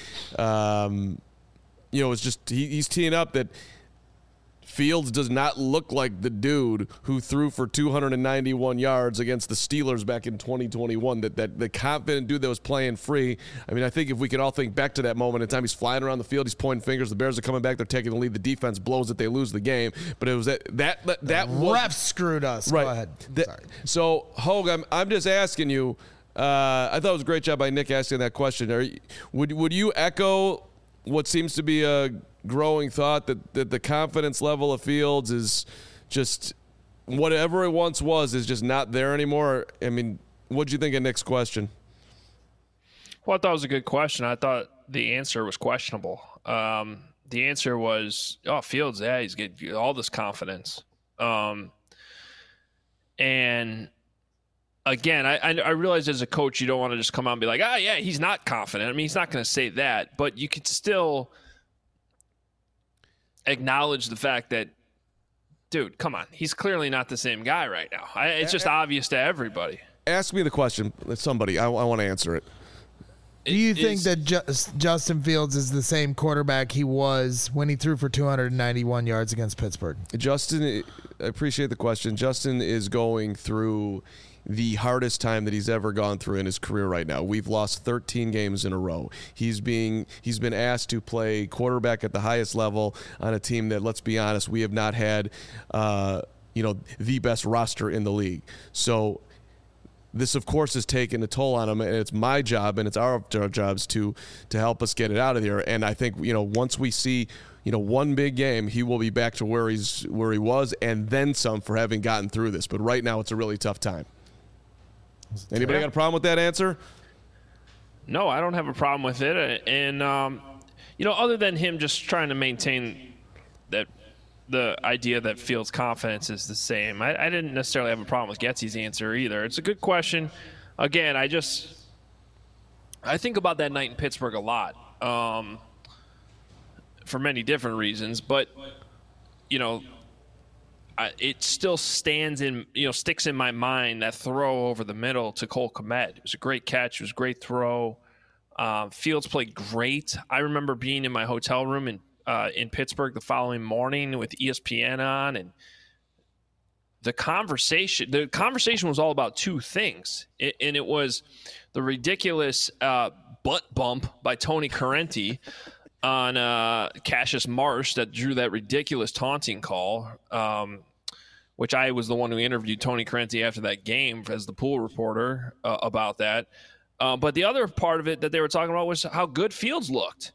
It's just he's teeing up that Fields does not look like the dude who threw for 291 yards against the Steelers back in 2021, that the confident dude that was playing free. I mean, I think if we could all think back to that moment in time, he's flying around the field, he's pointing fingers, the Bears are coming back, they're taking the lead, the defense blows it, they lose the game. But it was that refs screwed us. Right. Go ahead. Sorry. So, Hogue, I'm just asking you, I thought it was a great job by Nick asking that question. Would you echo what seems to be a growing thought that the confidence level of Fields is just whatever it once was is just not there anymore. I mean, what'd you think of Nick's question? Well, I thought it was a good question. I thought the answer was questionable. The answer was, Fields, yeah, he's getting all this confidence. And again, I realize as a coach, you don't want to just come out and be like, yeah, he's not confident. I mean, he's not going to say that, but you can still acknowledge the fact that, dude, come on, he's clearly not the same guy right now. It's just obvious to everybody. Ask me the question, somebody. I want to answer it. Do you think that Justin Fields is the same quarterback he was when he threw for 291 yards against Pittsburgh? Justin, I appreciate the question. Justin is going through the hardest time that he's ever gone through in his career right now. We've lost 13 games in a row. He's been asked to play quarterback at the highest level on a team that, let's be honest, we have not had the best roster in the league. So this, of course, has taken a toll on him, and it's my job and it's our jobs to help us get it out of here. And I think, once we see, one big game, he will be back to where he was and then some for having gotten through this. But right now, it's a really tough time. Anybody got a problem with that answer? No, I don't have a problem with it. And, other than him just trying to maintain that the idea that Fields' confidence is the same, I didn't necessarily have a problem with Getsy's answer either. It's a good question. Again, I think about that night in Pittsburgh a lot for many different reasons. But, it still sticks in my mind, that throw over the middle to Cole Kmet. It was a great catch. It was a great throw. Fields played great. I remember being in my hotel room in Pittsburgh the following morning with ESPN on, and the conversation was all about two things. And it was the ridiculous butt bump by Tony Correnti on Cassius Marsh that drew that ridiculous taunting call, which I was the one who interviewed Tony Correnti after that game as the pool reporter about that. But the other part of it that they were talking about was how good Fields looked.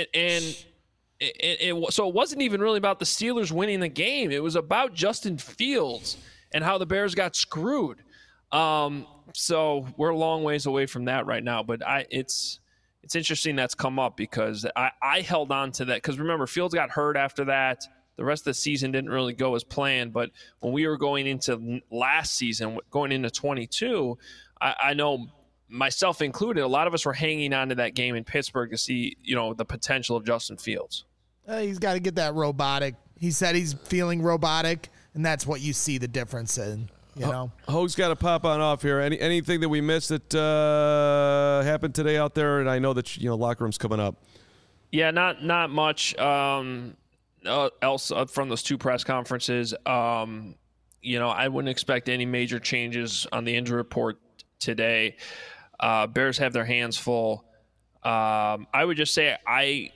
So it wasn't even really about the Steelers winning the game. It was about Justin Fields and how the Bears got screwed. So we're a long ways away from that right now. But it's interesting that's come up because I held on to that. Because remember, Fields got hurt after that. The rest of the season didn't really go as planned. But when we were going into last season, going into 22, I know myself included, a lot of us were hanging on to that game in Pittsburgh to see, the potential of Justin Fields. He's got to get that robotic. He said he's feeling robotic, and that's what you see the difference in, Hoag's got to pop on off here. Anything that we missed that happened today out there? And I know that, locker room's coming up. Yeah, not much else from those two press conferences. I wouldn't expect any major changes on the injury report today. Bears have their hands full. I would just say I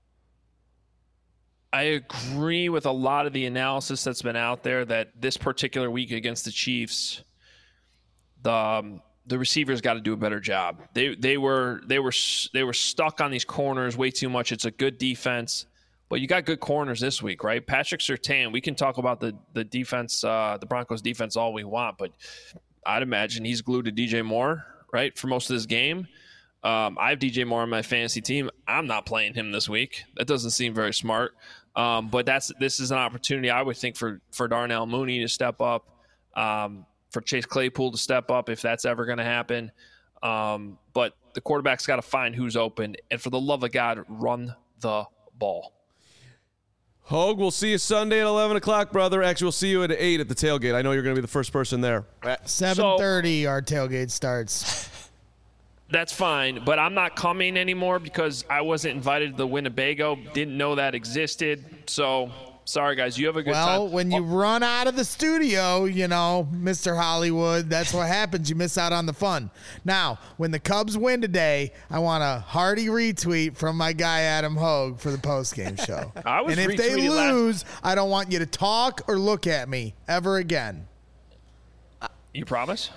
agree with a lot of the analysis that's been out there that this particular week against the Chiefs, the receivers got to do a better job. They were stuck on these corners way too much. It's a good defense, but you got good corners this week, right? Patrick Surtain. We can talk about the defense, the Broncos defense all we want, but I'd imagine he's glued to DJ Moore, right, for most of this game. I have DJ Moore on my fantasy team. I'm not playing him this week. That doesn't seem very smart. But this is an opportunity, I would think, for Darnell Mooney to step up, for Chase Claypool to step up if that's ever going to happen. But the quarterback's got to find who's open. And for the love of God, run the ball. Hoag, we'll see you Sunday at 11 o'clock, brother. Actually, we'll see you at 8 at the tailgate. I know you're going to be the first person there. 7:30 our tailgate starts. That's fine, but I'm not coming anymore because I wasn't invited to the Winnebago. Didn't know that existed. So, sorry, guys. You have a good time. Well, when you run out of the studio, Mr. Hollywood, that's what happens. You miss out on the fun. Now, when the Cubs win today, I want a hearty retweet from my guy Adam Hoag for the postgame show. And if they lose, I don't want you to talk or look at me ever again. You promise?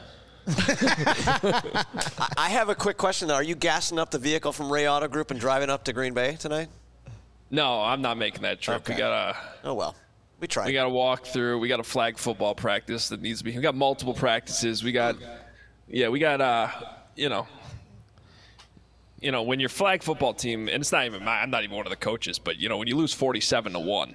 I have a quick question, though. Are you gassing up the vehicle from Ray Auto Group and driving up to Green Bay tonight? No, I'm not making that trip. Okay. We gotta. Oh well, we tried. We gotta walk through. We got a flag football practice that needs to be. We got multiple practices. We got. When your flag football team, and it's not even I'm not even one of the coaches, but when you lose 47-1,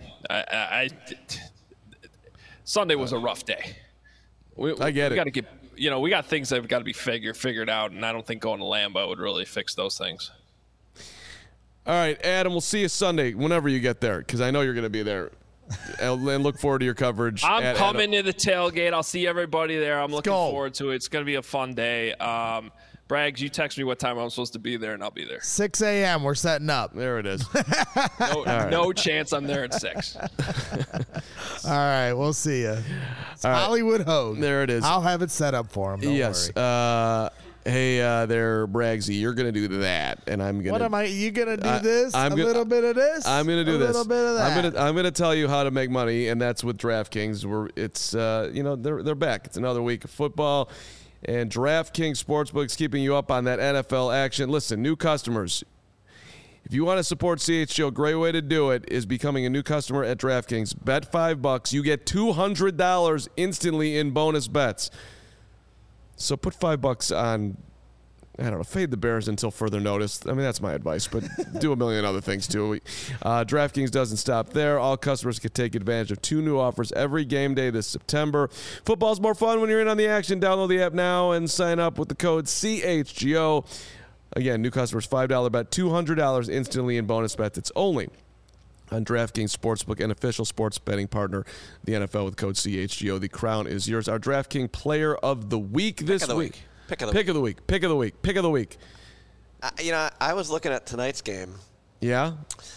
Sunday was a rough day. I get it. We got to get. We got things that have got to be figured out, and I don't think going to Lambeau would really fix those things. All right, Adam, we'll see you Sunday whenever you get there, because I know you're going to be there. And look forward to your coverage. I'm coming to the tailgate. I'll see everybody there. I'm looking go. forward to it. It's going to be a fun day. Braggs, you text me what time I'm supposed to be there, and I'll be there. 6 a.m. We're setting up. There it is. No chance I'm there at 6. All right, we'll see you. It's Hollywood Hogue. There it is. I'll have it set up for him. Don't Yes. worry. Hey there, Braggsy, you're going to do that, and I'm going to. What am I? You gonna do this? I'm a gonna- little bit of this. I'm going to do this. A little bit of that. I'm going to tell you how to make money, and that's with DraftKings. They're back. It's another week of football, and DraftKings Sportsbook's keeping you up on that NFL action. Listen, new customers, if you want to support CHGO, a great way to do it is becoming a new customer at DraftKings. Bet $5, you get $200 instantly in bonus bets. So put $5 on, I don't know, fade the Bears until further notice. I mean, that's my advice, but do a million other things too. DraftKings doesn't stop there. All customers can take advantage of 2 new offers every game day this September. Football's more fun when you're in on the action. Download the app now and sign up with the code CHGO. Again, new customers, $5 bet, $200 instantly in bonus bets. It's only on DraftKings Sportsbook, an official sports betting partner of the NFL with code CHGO. The crown is yours. Our DraftKings Player of the Week this week. Pick of the week. I was looking at tonight's game. Yeah?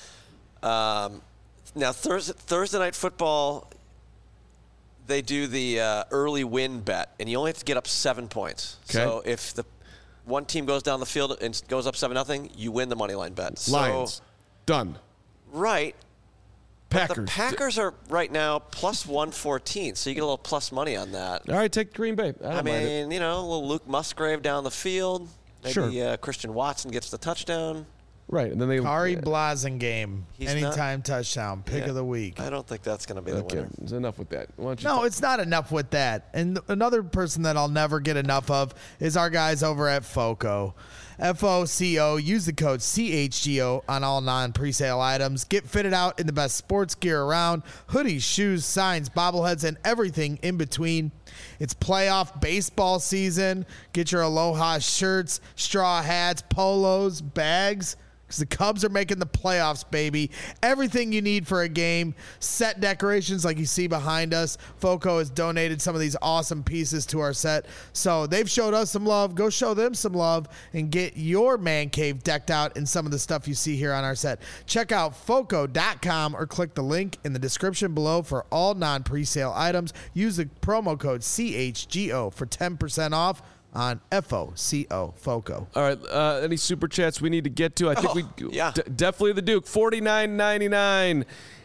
Now, Thursday Night Football, they do the early win bet, and you only have to get up 7 points. Okay. So if the one team goes down the field and goes up 7-0, you win the money line bet. Lions. Done. Right. But Packers. the Packers are right now plus 114, so you get a little plus money on that. All right, take Green Bay. I mean, a little Luke Musgrave down the field. Maybe Sure. Christian Watson gets the touchdown. Right, and then they Kari Blasingame, He's anytime touchdown, pick of the week. I don't think that's going to be the Okay, winner. there's enough with that. Why don't you No, it's not enough with that. And another person that I'll never get enough of is our guys over at FOCO. FOCO. Use the code CHGO on all non-presale items. Get fitted out in the best sports gear around. Hoodies, shoes, signs, bobbleheads, and everything in between. It's playoff baseball season. Get your Aloha shirts, straw hats, polos, bags, because the Cubs are making the playoffs, baby. Everything you need for a game. Set decorations like you see behind us. FOCO has donated some of these awesome pieces to our set. So they've showed us some love. Go show them some love and get your man cave decked out in some of the stuff you see here on our set. Check out FOCO.com or click the link in the description below for all non-presale items. Use the promo code CHGO for 10% off on FOCO. All right, any super chats we need to get to? I think definitely the Duke, $49.99.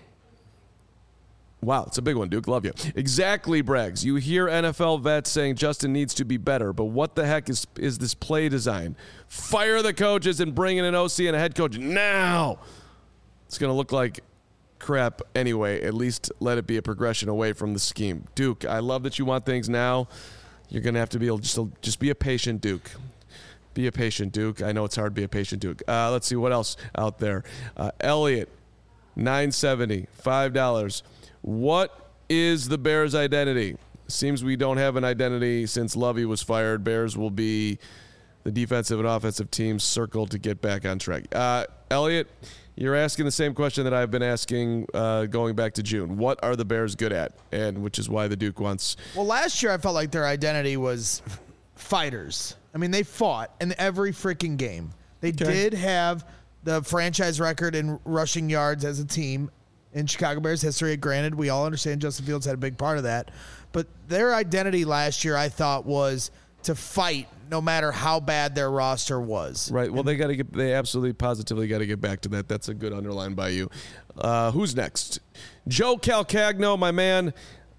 Wow, it's a big one, Duke. Love you. Exactly, Braggs. You hear NFL vets saying Justin needs to be better, but what the heck is this play design? Fire the coaches and bring in an OC and a head coach now. It's going to look like crap anyway. At least let it be a progression away from the scheme. Duke, I love that you want things now. You're going to have to be able to just be a patient Duke. Be a patient Duke. I know it's hard to be a patient Duke. Let's see what else out there. Elliot, $9.70, $5. What is the Bears' identity? Seems we don't have an identity since Lovey was fired. Bears will be the defensive and offensive teams circled to get back on track. Elliot, you're asking the same question that I've been asking going back to June. What are the Bears good at? And which is why the Duke wants. Well, last year I felt like their identity was fighters. I mean, they fought in every freaking game. They did have the franchise record in rushing yards as a team in Chicago Bears history. Granted, we all understand Justin Fields had a big part of that. But their identity last year, I thought, was to fight no matter how bad their roster was. Right. Well, they absolutely positively got to get back to that. That's a good underline by you. Who's next? Joe Calcagno, my man.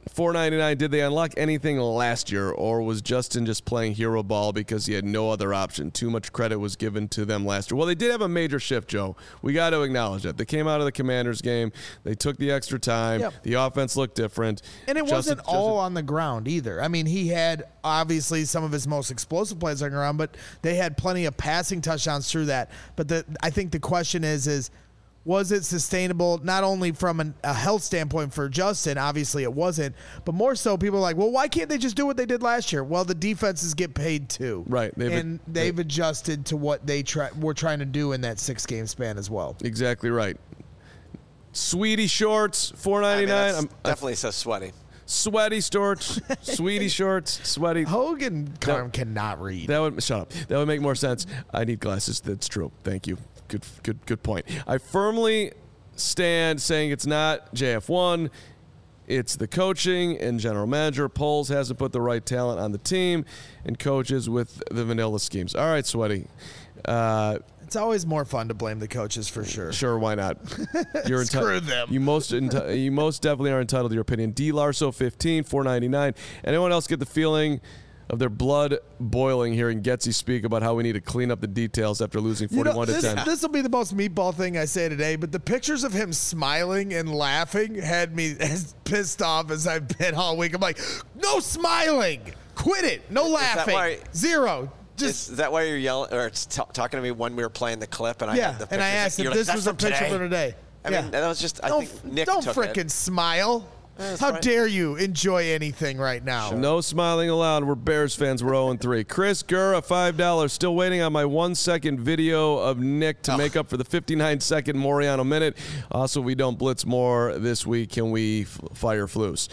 $4.99. Did they unlock anything last year, or was Justin just playing hero ball because he had no other option? Too much credit was given to them last year. Well, they did have a major shift, Joe. We got to acknowledge that. They came out of the Commanders game. They took the extra time. Yep. The offense looked different. And it wasn't all on the ground either. I mean, he had obviously some of his most explosive plays on the ground, but they had plenty of passing touchdowns through that. But I think the question is was it sustainable, not only from a health standpoint for Justin? Obviously it wasn't, but more so people are like, well, why can't they just do what they did last year? Well, the defenses get paid too. Right. They've adjusted to what they were trying to do in that 6-game span as well. Exactly right. Sweetie shorts, $4.99. Definitely says sweaty. Sweaty shorts, sweetie shorts, sweaty. Hogan cannot read. Shut up. That would make more sense. I need glasses. That's true. Thank you. Good point. I firmly stand saying it's not JF1. It's the coaching and general manager. Poles hasn't put the right talent on the team and coaches with the vanilla schemes. All right, Sweaty. It's always more fun to blame the coaches for sure. Sure, why not? You're Screw them. You most definitely are entitled to your opinion. D. Larso 15, $4.99. Anyone else get the feeling of their blood boiling hearing Getsy speak about how we need to clean up the details after losing 41-10? This will be the most meatball thing I say today, but the pictures of him smiling and laughing had me as pissed off as I've been all week. I'm like, no smiling. Quit it. No laughing. Zero. Is that why you're yelling or talking to me when we were playing the clip? And I had the and I asked if this was a picture for today. I mean, that was just, I think Nick don't took frickin' smile. How dare you enjoy anything right now? No smiling allowed. We're Bears fans. We're 0-3. Chris Gurra, $5. Still waiting on my 1-second video of Nick to make up for the 59-second Moriano minute. Also, we don't blitz more this week. Can we fire Flus?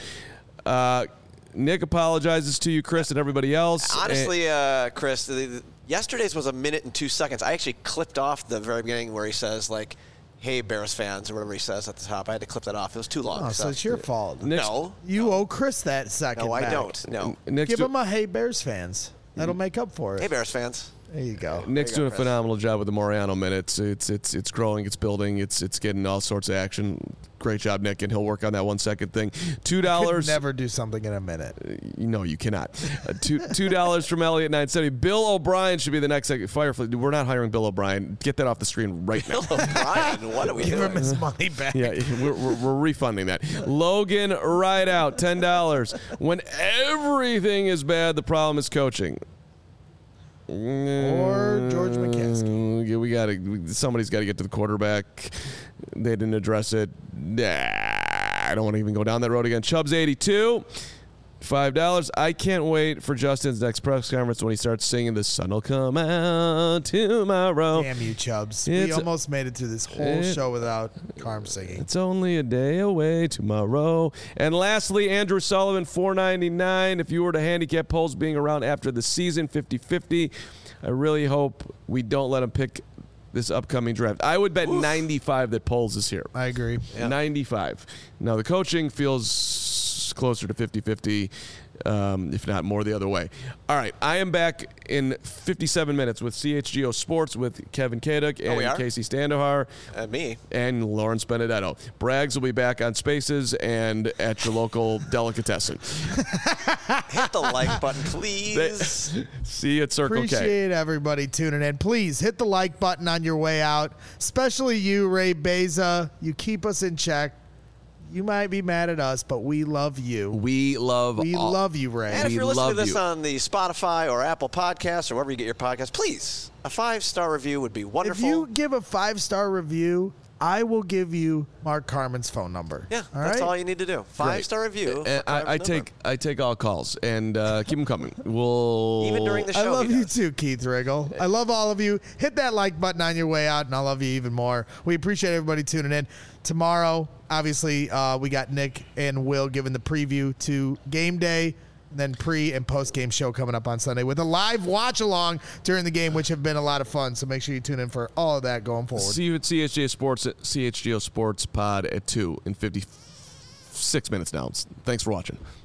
Nick apologizes to you, Chris, and everybody else. Honestly, Chris, yesterday's was 1 minute and 2 seconds. I actually clipped off the very beginning where he says, like, hey, Bears fans, or whatever he says at the top. I had to clip that off. It was too long. Oh, so it's your fault. No. You owe Chris that second. No, I back. don't. No. Give him a hey, Bears fans. That'll make up for it. Hey, Bears fans. There you go. Nick's doing a phenomenal job with the Moriano minutes. It's growing, it's building, it's getting all sorts of action. Great job, Nick, and he'll work on that 1 second thing. $2. Never do something in a minute. No, you cannot. $2 from Elliot 970. Bill O'Brien should be the next Firefly. We're not hiring Bill O'Brien. Get that off the screen right now. Bill O'Brien, what are we doing? Give him his money back. Yeah, we're refunding that. Logan Rideout, $10. When everything is bad, the problem is coaching. Or George McCaskey. Somebody's got to get to the quarterback. They didn't address it. I don't want to even go down that road again. Chubbs 82, $5. I can't wait for Justin's next press conference when he starts singing "The Sun Will Come Out Tomorrow." Damn you, Chubbs. We almost made it through this whole show without Carm singing. It's only a day away tomorrow. And lastly, Andrew Sullivan, $4.99. If you were to handicap polls being around after the season, 50-50, I really hope we don't let him pick this upcoming draft. I would bet 95 that Poles is here. I agree. Yeah. 95. Now, the coaching feels closer to 50-50, if not more the other way. All right, I am back in 57 minutes with CHGO Sports with Kevin Kaduk and Casey Standohar. And me. And Lawrence Benedetto. Braggs will be back on Spaces and at your local delicatessen. Hit the like button, please. See you at Circle K. Appreciate everybody tuning in. Please hit the like button on your way out, especially you, Ray Beza. You keep us in check. You might be mad at us, but we love you. We love you, Ray. And if you're listening to this on the Spotify or Apple Podcasts or wherever you get your podcasts, please, a 5-star review would be wonderful. If you give a 5-star review, I will give you Mark Carman's phone number. Yeah, that's all you need to do. 5-star review. I take all calls and keep them coming. We'll even during the show. I love you too, Keith Riggle. I love all of you. Hit that like button on your way out, and I love you even more. We appreciate everybody tuning in. Tomorrow, obviously, we got Nick and Will giving the preview to game day. Then pre- and post-game show coming up on Sunday with a live watch-along during the game, which have been a lot of fun. So make sure you tune in for all of that going forward. See you at CHGO Sports Pod at 2 in 56 minutes now. Thanks for watching.